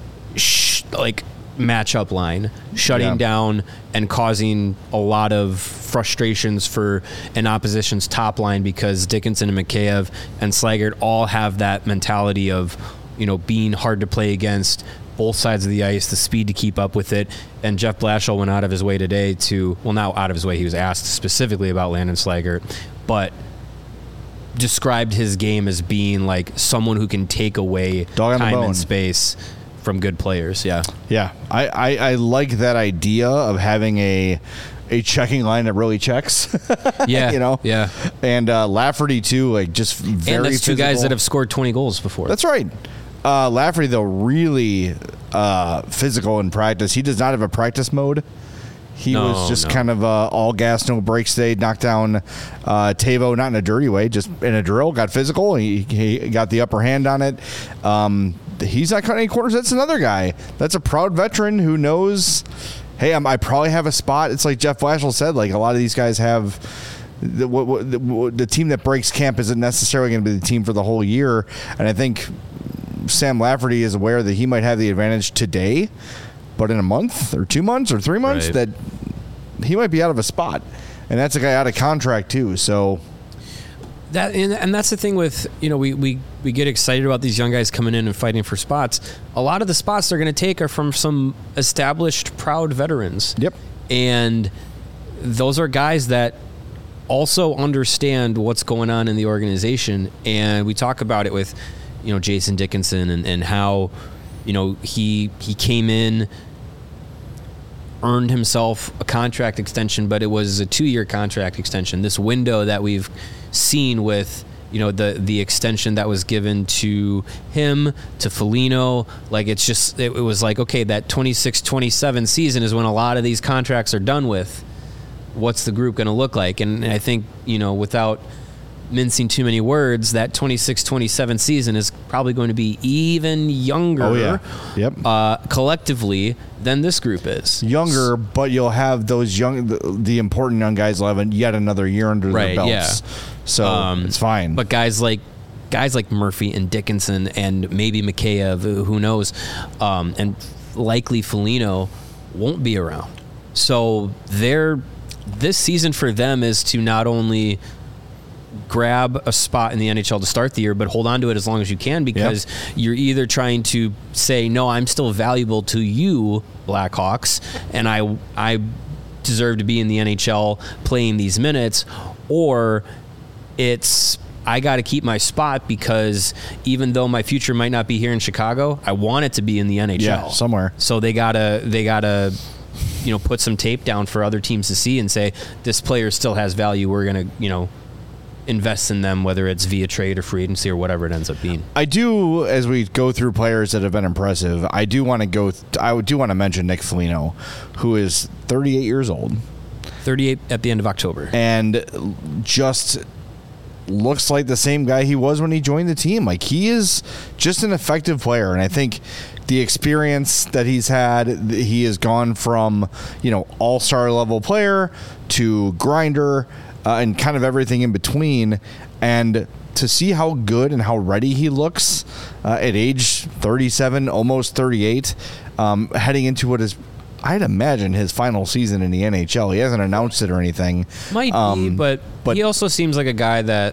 matchup line, shutting down and causing a lot of frustrations for an opposition's top line, because Dickinson and Mikheyev and Slaggert all have that mentality of, being hard to play against, both sides of the ice, the speed to keep up with it. And Jeff Blashill went out of his way today not out of his way, he was asked specifically about Landon Slaggert, but described his game as being like someone who can take away time and space from good players. Yeah. I like that idea of having a checking line that really checks. Yeah. Yeah. And Lafferty too, just very. And that's two physical guys that have scored 20 goals before. That's right. Lafferty though, really physical in practice. He does not have a practice mode. He was just kind of all gas, no brakes today. Knocked down Tavo, not in a dirty way, just in a drill. Got physical. He got the upper hand on it. He's not cutting any corners. That's another guy. That's a proud veteran who knows, hey, I probably have a spot. It's like Jeff Blashill said, like a lot of these guys have the team that breaks camp isn't necessarily going to be the team for the whole year. And I think Sam Lafferty is aware that he might have the advantage today, but in a month or 2 months or 3 months that he might be out of a spot. And that's a guy out of contract too. So and that's the thing with, we get excited about these young guys coming in and fighting for spots. A lot of the spots they're going to take are from some established, proud veterans. Yep. And those are guys that also understand what's going on in the organization. And we talk about it with, Jason Dickinson and how, he came in, earned himself a contract extension, but it was a 2-year contract extension. This window that we've seen with, the extension that was given to him, to Foligno, like it was like, okay, that 26-27 season is when a lot of these contracts are done with. What's the group going to look like? And I think, without mincing too many words, that 26-27 season is probably going to be even younger collectively than this group is. Younger, but you'll have those the important young guys will have yet another year under their belts. Yeah. So it's fine. But guys like Murphy and Dickinson and maybe Mikheyev, who knows, and likely Foligno won't be around. So this season for them is to not only grab a spot in the NHL to start the year, but hold on to it as long as you can, because you're either trying to say, no, I'm still valuable to you, Blackhawks, and I deserve to be in the NHL playing these minutes, or it's I got to keep my spot because even though my future might not be here in Chicago, I want it to be in the NHL somewhere. So they gotta put some tape down for other teams to see and say, this player still has value. We're going to, invest in them, whether it's via trade or free agency or whatever it ends up being. I do, as we go through players that have been impressive, I do want to mention Nick Foligno, who is 38 years old. 38 at the end of October. And just looks like the same guy he was when he joined the team. Like, he is just an effective player. And I think the experience that he's had, he has gone from, all-star level player to grinder, and kind of everything in between. And to see how good and how ready he looks at age 37, almost 38, heading into what is, I'd imagine, his final season in the NHL. He hasn't announced it or anything. Might be, but he also seems like a guy that,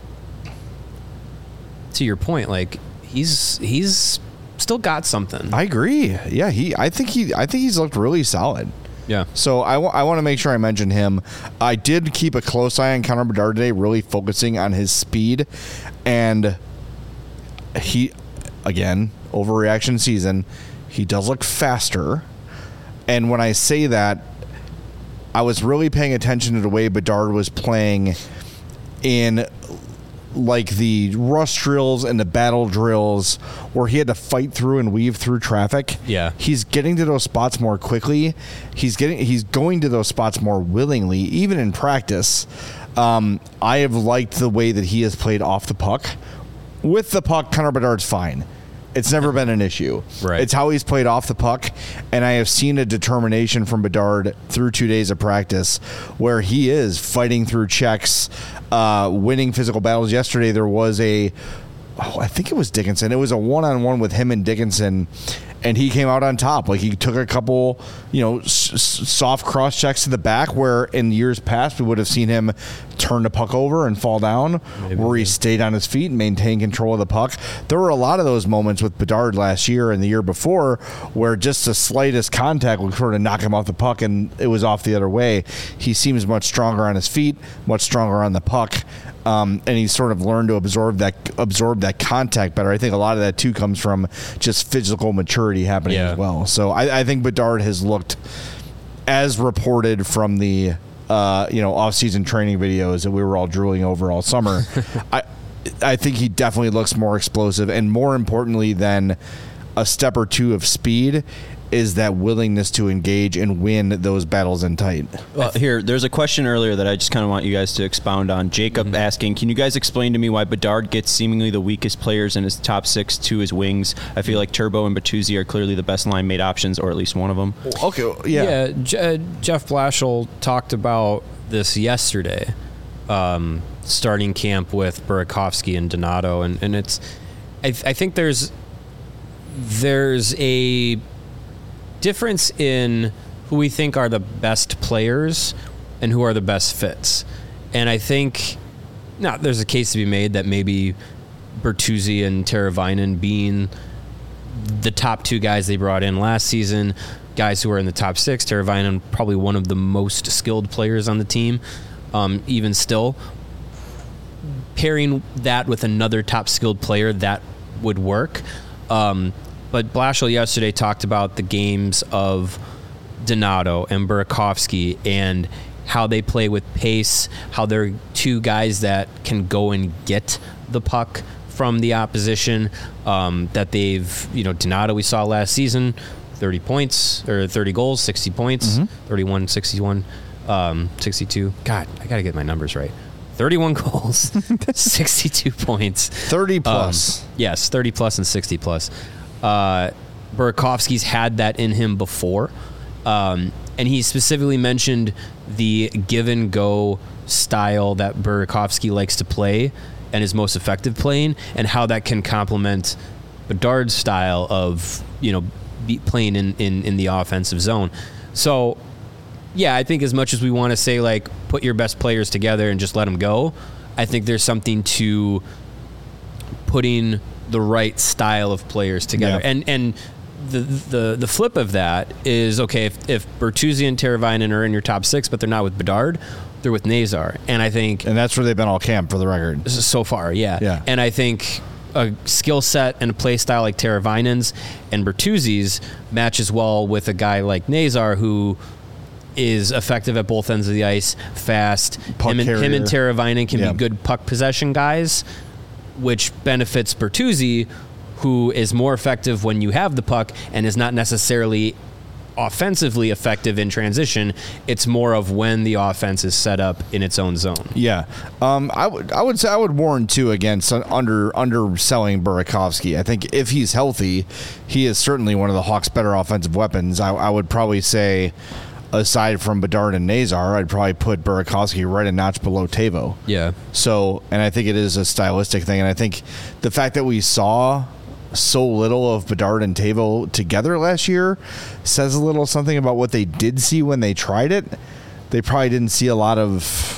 to your point, like he's still got something. I agree. Yeah, I think he's looked really solid. Yeah. So I want to make sure I mention him. I did keep a close eye on Connor Bedard today, really focusing on his speed. And he, again, overreaction season, he does look faster. And when I say that, I was really paying attention to the way Bedard was playing in like the rush drills and the battle drills where he had to fight through and weave through traffic. Yeah. He's getting to those spots more quickly. He's going to those spots more willingly, even in practice. I have liked the way that he has played off the puck. With the puck, Connor Bedard's fine. It's never been an issue. Right. It's how he's played off the puck, and I have seen a determination from Bedard through 2 days of practice where he is fighting through checks, winning physical battles. Yesterday there was I think it was Dickinson. It was a one-on-one with him and Dickinson, and he came out on top. Like, he took a couple, soft cross checks to the back where in years past we would have seen him turn the puck over and fall down, where he stayed on his feet and maintained control of the puck. There were a lot of those moments with Bedard last year and the year before where just the slightest contact would sort of knock him off the puck and it was off the other way. He seems much stronger on his feet, much stronger on the puck. And he's sort of learned to absorb that contact better. I think a lot of that too comes from just physical maturity happening as well. So I think Bedard has looked, as reported from the off-season training videos that we were all drooling over all summer. I think he definitely looks more explosive, and more importantly than a step or two of speed is that willingness to engage and win those battles in tight. Here, there's a question earlier that I just kind of want you guys to expound on. Jacob asking, can you guys explain to me why Bedard gets seemingly the weakest players in his top 6 to his wings? I feel like Turbo and Bertuzzi are clearly the best line mate options, or at least one of them. Okay, yeah. Jeff Blashill talked about this yesterday, starting camp with Burakovsky and Donato, and it's, I think there's a difference in who we think are the best players and who are the best fits. And I think there's a case to be made that maybe Bertuzzi and Teravainen being the top 2 guys they brought in last season, guys who are in the top 6, Teravainen probably one of the most skilled players on the team, even still. Pairing that with another top skilled player, that would work. But Blashill yesterday talked about the games of Donato and Burakovsky and how they play with pace, how they're 2 guys that can go and get the puck from the opposition, that they've, Donato we saw last season, 30 points, or 30 goals, 60 points, 31, 61, 62. God, I got to get my numbers right. 31 goals, 62 points. 30 plus. Yes, 30 plus and 60 plus. Burakovsky's had that in him before. And he specifically mentioned the give and go style that Burakovsky likes to play and is most effective playing, and how that can complement Bedard's style of, playing in the offensive zone. So, yeah, I think as much as we want to say, like, put your best players together and just let them go, I think there's something to putting the right style of players together. Yeah. And the flip of that is, okay, if Bertuzzi and Teravainen are in your top 6, but they're not with Bedard, they're with Nazar. And I think... And that's where they've been all camp, for the record. So far, yeah. And I think a skill set and a play style like Teravainen's and Bertuzzi's matches well with a guy like Nazar, who is effective at both ends of the ice, fast. Him and Teravainen can be good puck possession guys, which benefits Bertuzzi, who is more effective when you have the puck and is not necessarily offensively effective in transition. It's more of when the offense is set up in its own zone. Yeah. I would say I would warn too against underselling Burakovsky. I think if he's healthy, he is certainly one of the Hawks' better offensive weapons. I would probably say, aside from Bedard and Nazar, I'd probably put Burakovsky right a notch below Teuvo. Yeah. So, and I think it is a stylistic thing, and I think the fact that we saw so little of Bedard and Teuvo together last year says a little something about what they did see when they tried it. They probably didn't see a lot of,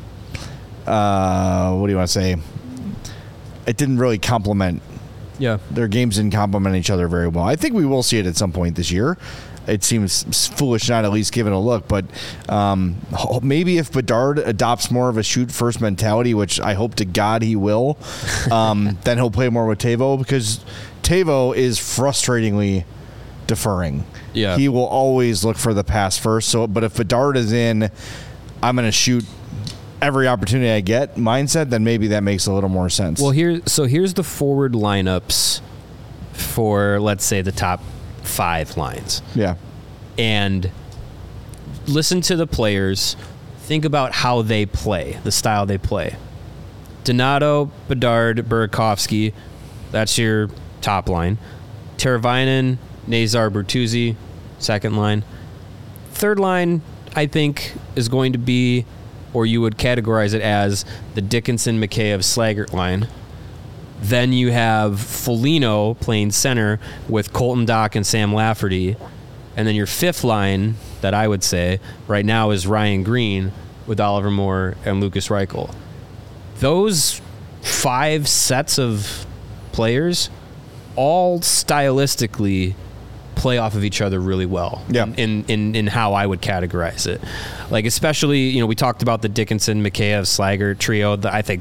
what do you want to say? It didn't really complement. Yeah. Their games didn't complement each other very well. I think we will see it at some point this year. It seems foolish not at least give it a look, but maybe if Bedard adopts more of a shoot-first mentality, which I hope to God he will, then he'll play more with Teuvo, because Teuvo is frustratingly deferring. Yeah. He will always look for the pass first. But if Bedard is in, I'm going to shoot every opportunity I get mindset, then maybe that makes a little more sense. Well, here's the forward lineups for, let's say, the top 5 lines. Yeah. And listen to the players. Think about how they play, the style they play. Donato, Bedard, Burakovsky, that's your top line. Teravainen, Nazar, Bertuzzi, second line. Third line, I think, is going to be, or you would categorize it as, the Dickinson, Mikheyev, Slaggert line. Then you have Foligno playing center with Colton Dach and Sam Lafferty. And then your fifth line, that I would say, right now is Ryan Green with Oliver Moore and Lucas Reichel. Those 5 sets of players all stylistically play off of each other really well. Yeah. In how I would categorize it. Like, especially, we talked about the Dickinson, Mikheyev, Slaggert trio. I think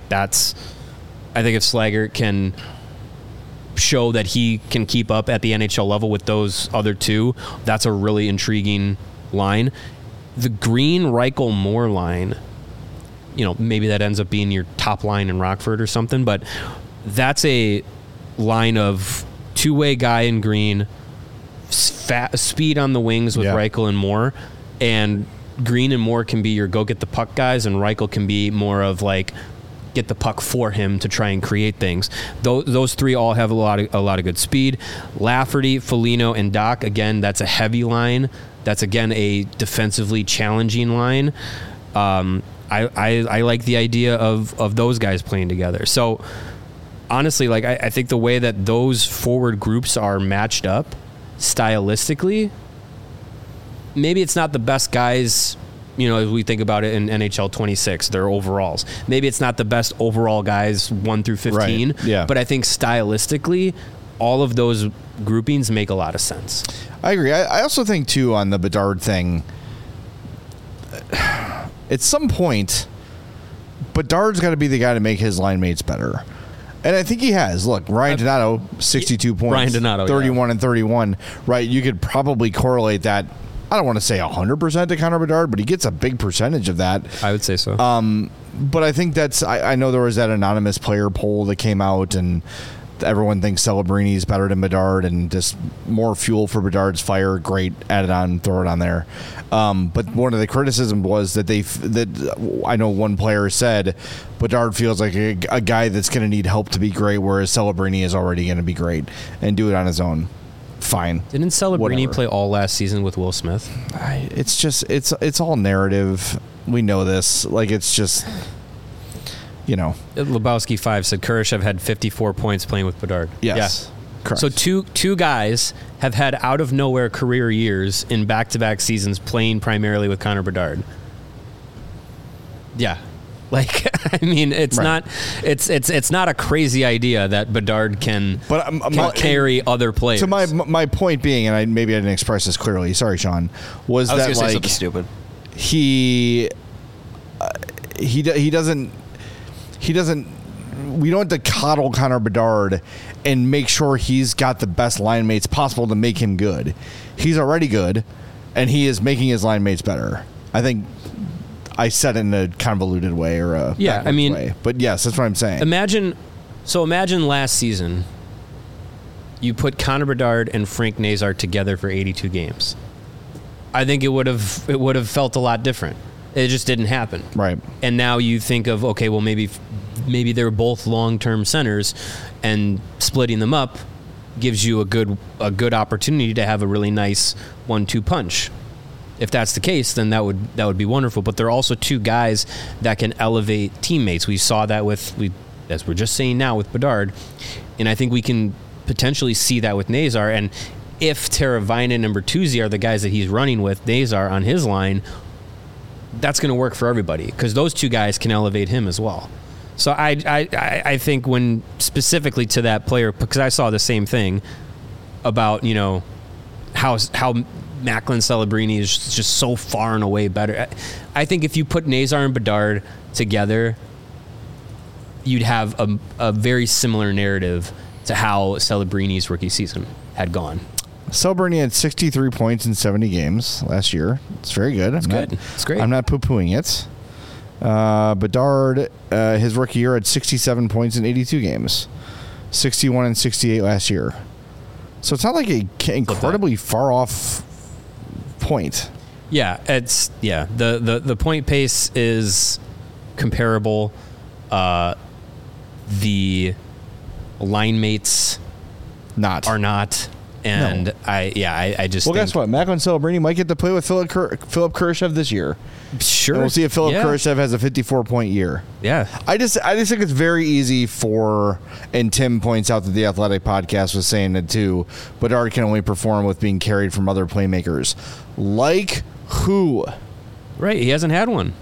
if Slaggert can show that he can keep up at the NHL level with those other 2, that's a really intriguing line. The Green, Reichel, Moore line, maybe that ends up being your top line in Rockford or something, but that's a line of 2-way guy in Green, speed on the wings with Reichel and Moore, and Green and Moore can be your go get the puck guys, and Reichel can be more of like get the puck for him to try and create things. Those three all have a lot of good speed. Lafferty, Foligno, and Doc, again, that's a heavy line. That's again a defensively challenging line. I like the idea of those guys playing together. So honestly, like I think the way that those forward groups are matched up stylistically, maybe it's not the best guys, as we think about it in NHL 26, their overalls. Maybe it's not the best overall guys 1 through 15, right. Yeah. But I think stylistically, all of those groupings make a lot of sense. I agree. I also think, too, on the Bedard thing, at some point, Bedard's got to be the guy to make his line mates better. And I think he has. Look, Ryan Donato, 62 points. Ryan Donato, 31 and 31. Right, you could probably correlate that. I don't want to say 100% to Connor Bedard, but he gets a big percentage of that. I would say so. But I think that's... I know there was that anonymous player poll that came out, and everyone thinks Celebrini's better than Bedard, and just more fuel for Bedard's fire. Great, add it on, throw it on there. But one of the criticisms was that I know one player said Bedard feels like a guy that's going to need help to be great, whereas Celebrini is already going to be great and do it on his own. Fine. Didn't Celebrini play all last season with Will Smith? It's just it's all narrative. We know this. Like, it's just, Lebowski 5 said Kurashev had 54 points playing with Bedard. Yes. Yeah. Correct. So two guys have had out of nowhere career years in back-to-back seasons playing primarily with Connor Bedard. Yeah. Like, I mean, it's right. it's not a crazy idea that Bedard can carry other players. So my point being, and maybe I didn't express this clearly. Sorry, Sean. Was that say something stupid? He doesn't. We don't have to coddle Connor Bedard and make sure he's got the best line mates possible to make him good. He's already good, and he is making his line mates better. I think I said it in a convoluted way or a way. But yes, that's what I'm saying. Imagine last season you put Connor Bedard and Frank Nazar together for 82 games. I think it would have felt a lot different. It just didn't happen. Right. And now you think of, okay, well, maybe they're both long-term centers, and splitting them up gives you a good opportunity to have a really nice 1-2 punch. If that's the case, then that would be wonderful. But there are also two guys that can elevate teammates. We saw that as we're just saying now, with Bedard, and I think we can potentially see that with Nazar. And if Teravainen and Bertuzzi are the guys that he's running with, Nazar on his line, that's going to work for everybody, because those two guys can elevate him as well. So I think when specifically to that player, because I saw the same thing about how Macklin Celebrini is just so far and away better. I think if you put Nazar and Bedard together, you'd have a very similar narrative to how Celebrini's rookie season had gone. Celebrini had 63 points in 70 games last year. It's very good. It's great. I'm not poo-pooing it. Bedard, his rookie year, had 67 points in 82 games. 61 and 68 last year. So it's not like an incredibly far off point. Yeah, the point pace is comparable. The line mates are not. And no. I just think, guess what? Macklin Celebrini might get to play with Philip Kurashev this year. Sure. And we'll see if Philip Kurashev has a 54-point year. Yeah. I just think it's very easy and Tim points out that the Athletic podcast was saying it too, Bedard can only perform with being carried from other playmakers. Like who? Right. He hasn't had one.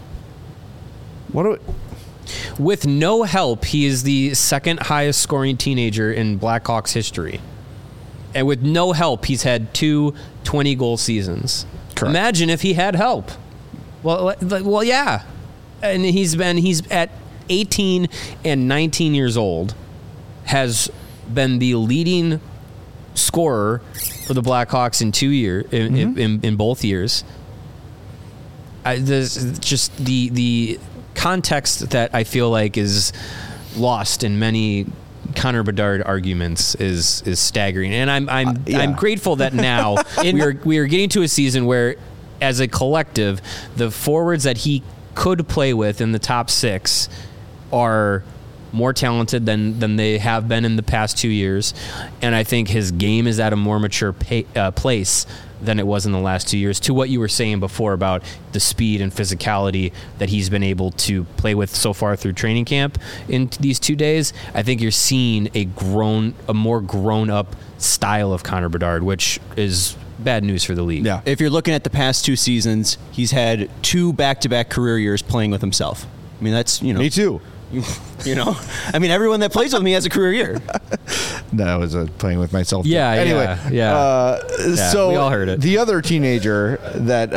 With no help, he is the second highest scoring teenager in Blackhawks history. And with no help, he's had 2 20-goal seasons. Correct. Imagine if he had help. Well, yeah. And he's at 18 and 19 years old, has been the leading scorer for the Blackhawks in 2 years, in both years. Just the context that I feel like is lost in many Connor Bedard arguments is staggering, and I'm grateful that now we are getting to a season where, as a collective, the forwards that he could play with in the top 6 are more talented than they have been in the past 2 years, and I think his game is at a more mature place than it was in the last 2 years. To what you were saying before about the speed and physicality that he's been able to play with so far through training camp in these 2 days, I think you're seeing a more grown up style of Connor Bedard, which is bad news for the league. Yeah. If you're looking at the past 2 seasons, he's had 2 back-to-back career years playing with himself. I mean, that's, Me too. I mean, everyone that plays with me has a career year. That was playing with myself. Yeah. Anyway, so we all heard it. The other teenager that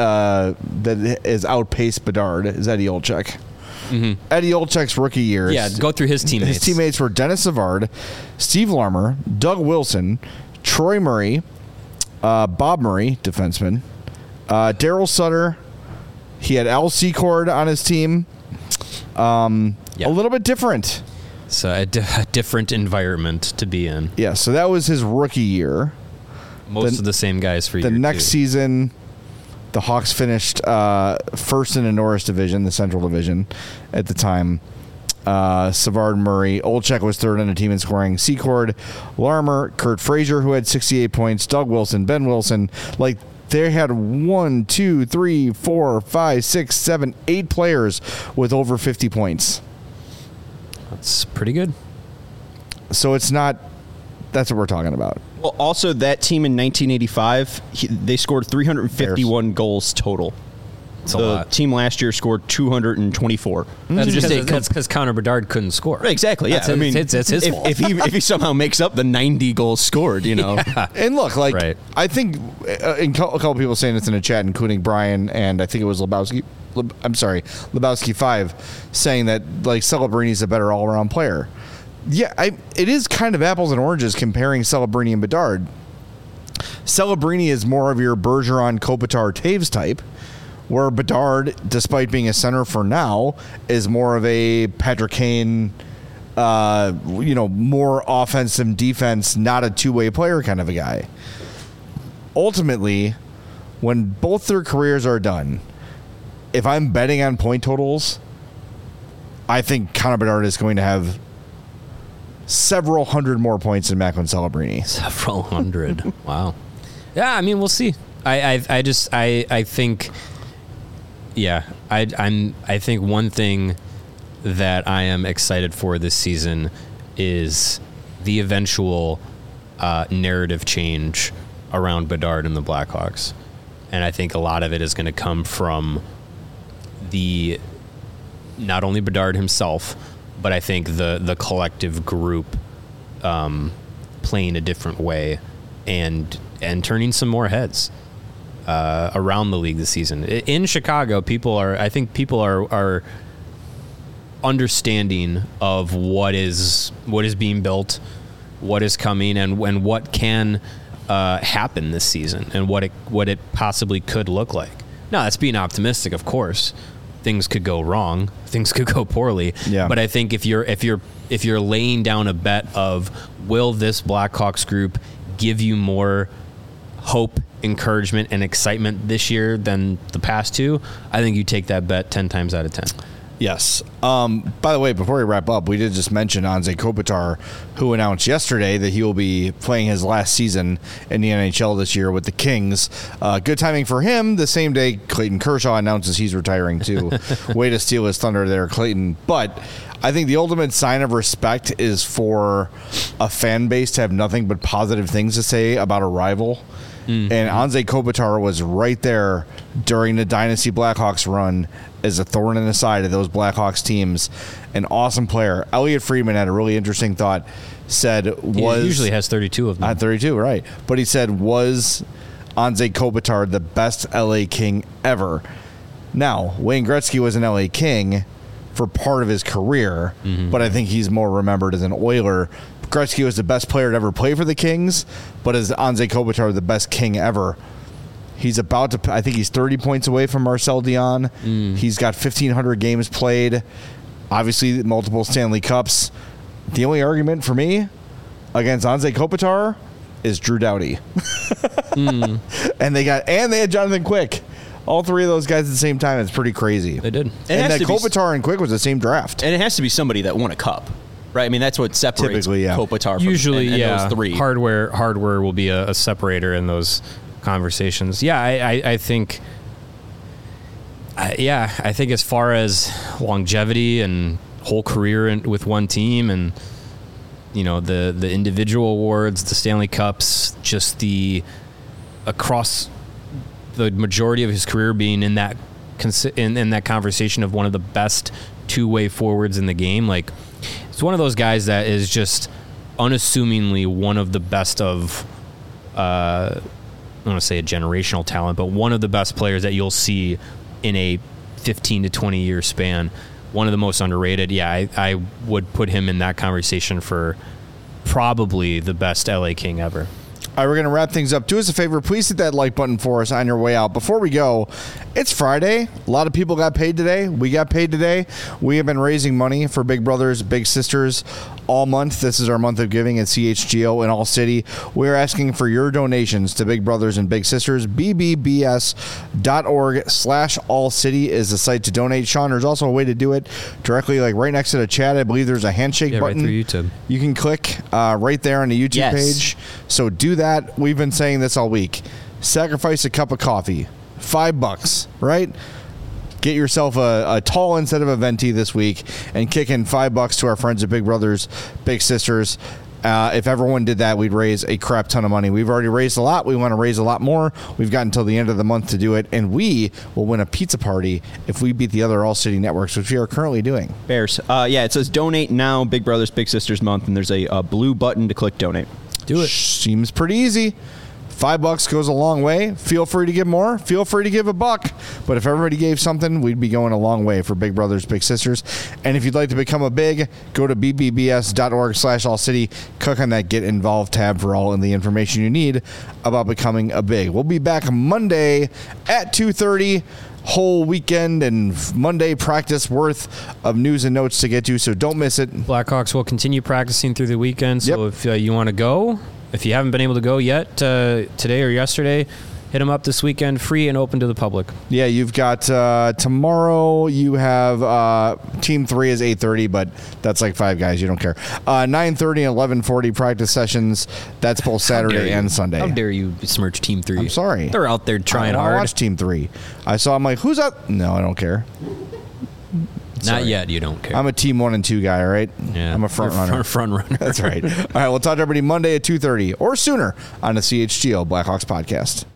is outpaced Bedard is Eddie Olczyk. Mm-hmm. Eddie Olczyk's rookie years. Yeah, go through his teammates. His teammates were Dennis Savard, Steve Larmer, Doug Wilson, Troy Murray, Bob Murray, defenseman, Daryl Sutter. He had Al Secord on his team. A little bit different. So a different environment to be in. Yeah, so that was his rookie year. Most of the same guys for the year next 2. season. The Hawks finished first in the Norris Division, the Central Division, at the time. Savard, Murray, Olczyk was third on the team in scoring. Secord, Larmer, Kurt Frazier, who had 68 points. Doug Wilson, Ben Wilson, they had 1, 2, 3, 4, 5, 6, 7, 8 players with over 50 points. That's pretty good. So it's not. That's what we're talking about. Well, also that team in 1985, they scored 351 goals total. That's a lot. The team last year scored 224. That's because Connor Bedard couldn't score. Right, exactly. Yeah, it's his fault. If he somehow makes up the 90 goals scored, Yeah. And look, I think a couple people saying this in the chat, including Brian and I think it was Lebowski. Lebowski 5, saying that Celebrini is a better all-around player. Yeah, it is kind of apples and oranges comparing Celebrini and Bedard. Celebrini is more of your Bergeron, Kopitar, Taves type, where Bedard, despite being a center for now, is more of a Patrick Kane, more offensive defense, not a two-way player kind of a guy. Ultimately, when both their careers are done, if I'm betting on point totals, I think Connor Bedard is going to have several hundred more points than Macklin Celebrini. Several hundred. Wow. Yeah, I mean, we'll see. I think. Yeah, I think one thing that I am excited for this season is the eventual narrative change around Bedard and the Blackhawks, and I think a lot of it is going to come from not only Bedard himself, but I think the collective group playing a different way and turning some more heads around the league this season. In Chicago, people are understanding of what is being built, what is coming, and what can happen this season, and what it possibly could look like. Now, that's being optimistic, of course. Things could go wrong. Things could go poorly. Yeah. But I think if you're laying down a bet of will this Blackhawks group give you more hope, encouragement, and excitement this year than the past 2, I think you take that bet 10 times out of 10. Yes. By the way, before we wrap up, we did just mention Anze Kopitar, who announced yesterday that he will be playing his last season in the NHL this year with the Kings. Good timing for him. The same day Clayton Kershaw announces he's retiring too. Way to steal his thunder there, Clayton. But I think the ultimate sign of respect is for a fan base to have nothing but positive things to say about a rival. Mm-hmm. And Anze Kopitar was right there during the Dynasty Blackhawks run as a thorn in the side of those Blackhawks teams. An awesome player. Elliot Friedman had a really interesting thought. He usually has 32 of them. 32, right. But he said, was Anze Kopitar the best LA King ever? Now, Wayne Gretzky was an LA King for part of his career, but I think he's more remembered as an Oiler. Gretzky was the best player to ever play for the Kings, but is Anze Kopitar the best King ever? He's I think he's 30 points away from Marcel Dion. He's got 1,500 games played, obviously multiple Stanley Cups. The only argument for me against Anze Kopitar is Drew Doughty. And they had Jonathan Quick. All three of those guys at the same time. It's pretty crazy. They did. And that Kopitar and Quick was the same draft. And it has to be somebody that won a cup, right? I mean, that's what separates Kopitar from usually, those three. Hardware will be a separator in those conversations. Yeah, I think. I think as far as longevity and whole career with one team, and the individual awards, the Stanley Cups, just the across the majority of his career being in that conversation of one of the best two-way forwards in the game. Like, it's one of those guys that is just unassumingly one of the best of, I don't want to say a generational talent, but one of the best players that you'll see in a 15 to 20 year span. One of the most underrated. Yeah, I would put him in that conversation for probably the best LA King ever. All right, we're going to wrap things up. Do us a favor. Please hit that like button for us on your way out. Before we go, it's Friday. A lot of people got paid today. We got paid today. We have been raising money for Big Brothers, Big Sisters all month. This is our month of giving at CHGO in All City. We're asking for your donations to Big Brothers and Big Sisters. BBBS.org/All City is the site to donate. Sean, there's also a way to do it directly, like right next to the chat. I believe there's a handshake button. Right through YouTube. You can click right there on the YouTube page. So do that. We've been saying this all week. Sacrifice a cup of coffee. $5, right? Get yourself a tall instead of a venti this week and kick in $5 to our friends at Big Brothers, Big Sisters. If everyone did that, we'd raise a crap ton of money. We've already raised a lot. We want to raise a lot more. We've got until the end of the month to do it, and we will win a pizza party if we beat the other All City networks, which we are currently doing. Bears. It says donate now, Big Brothers, Big Sisters month, and there's a blue button to click donate. Do it. Seems pretty easy. $5 goes a long way. Feel free to give more. Feel free to give $1. But if everybody gave something, we'd be going a long way for Big Brothers, Big Sisters. And if you'd like to become a big, go to bbbs.org/All City. Click on that Get Involved tab for all of the information you need about becoming a big. We'll be back Monday at 2:30. Whole weekend and Monday practice worth of news and notes to get to, so don't miss it. Blackhawks will continue practicing through the weekend, so if you want to go, if you haven't been able to go yet today or yesterday, hit them up this weekend, free and open to the public. Yeah, you've got tomorrow. You have Team 3 is 8:30, but that's like 5 guys. You don't care. 9:30 and 11:40 practice sessions. That's both Saturday and Sunday. How dare you besmirch Team 3? I'm sorry. They're out there trying hard. I watched Team 3. I saw. I'm like, who's up? No, I don't care. Not yet. You don't care. I'm a Team 1 and 2 guy. All right. Yeah, I'm a front runner. Front runner. That's right. All right. We'll talk to everybody Monday at 2:30 or sooner on the CHGO Blackhawks podcast.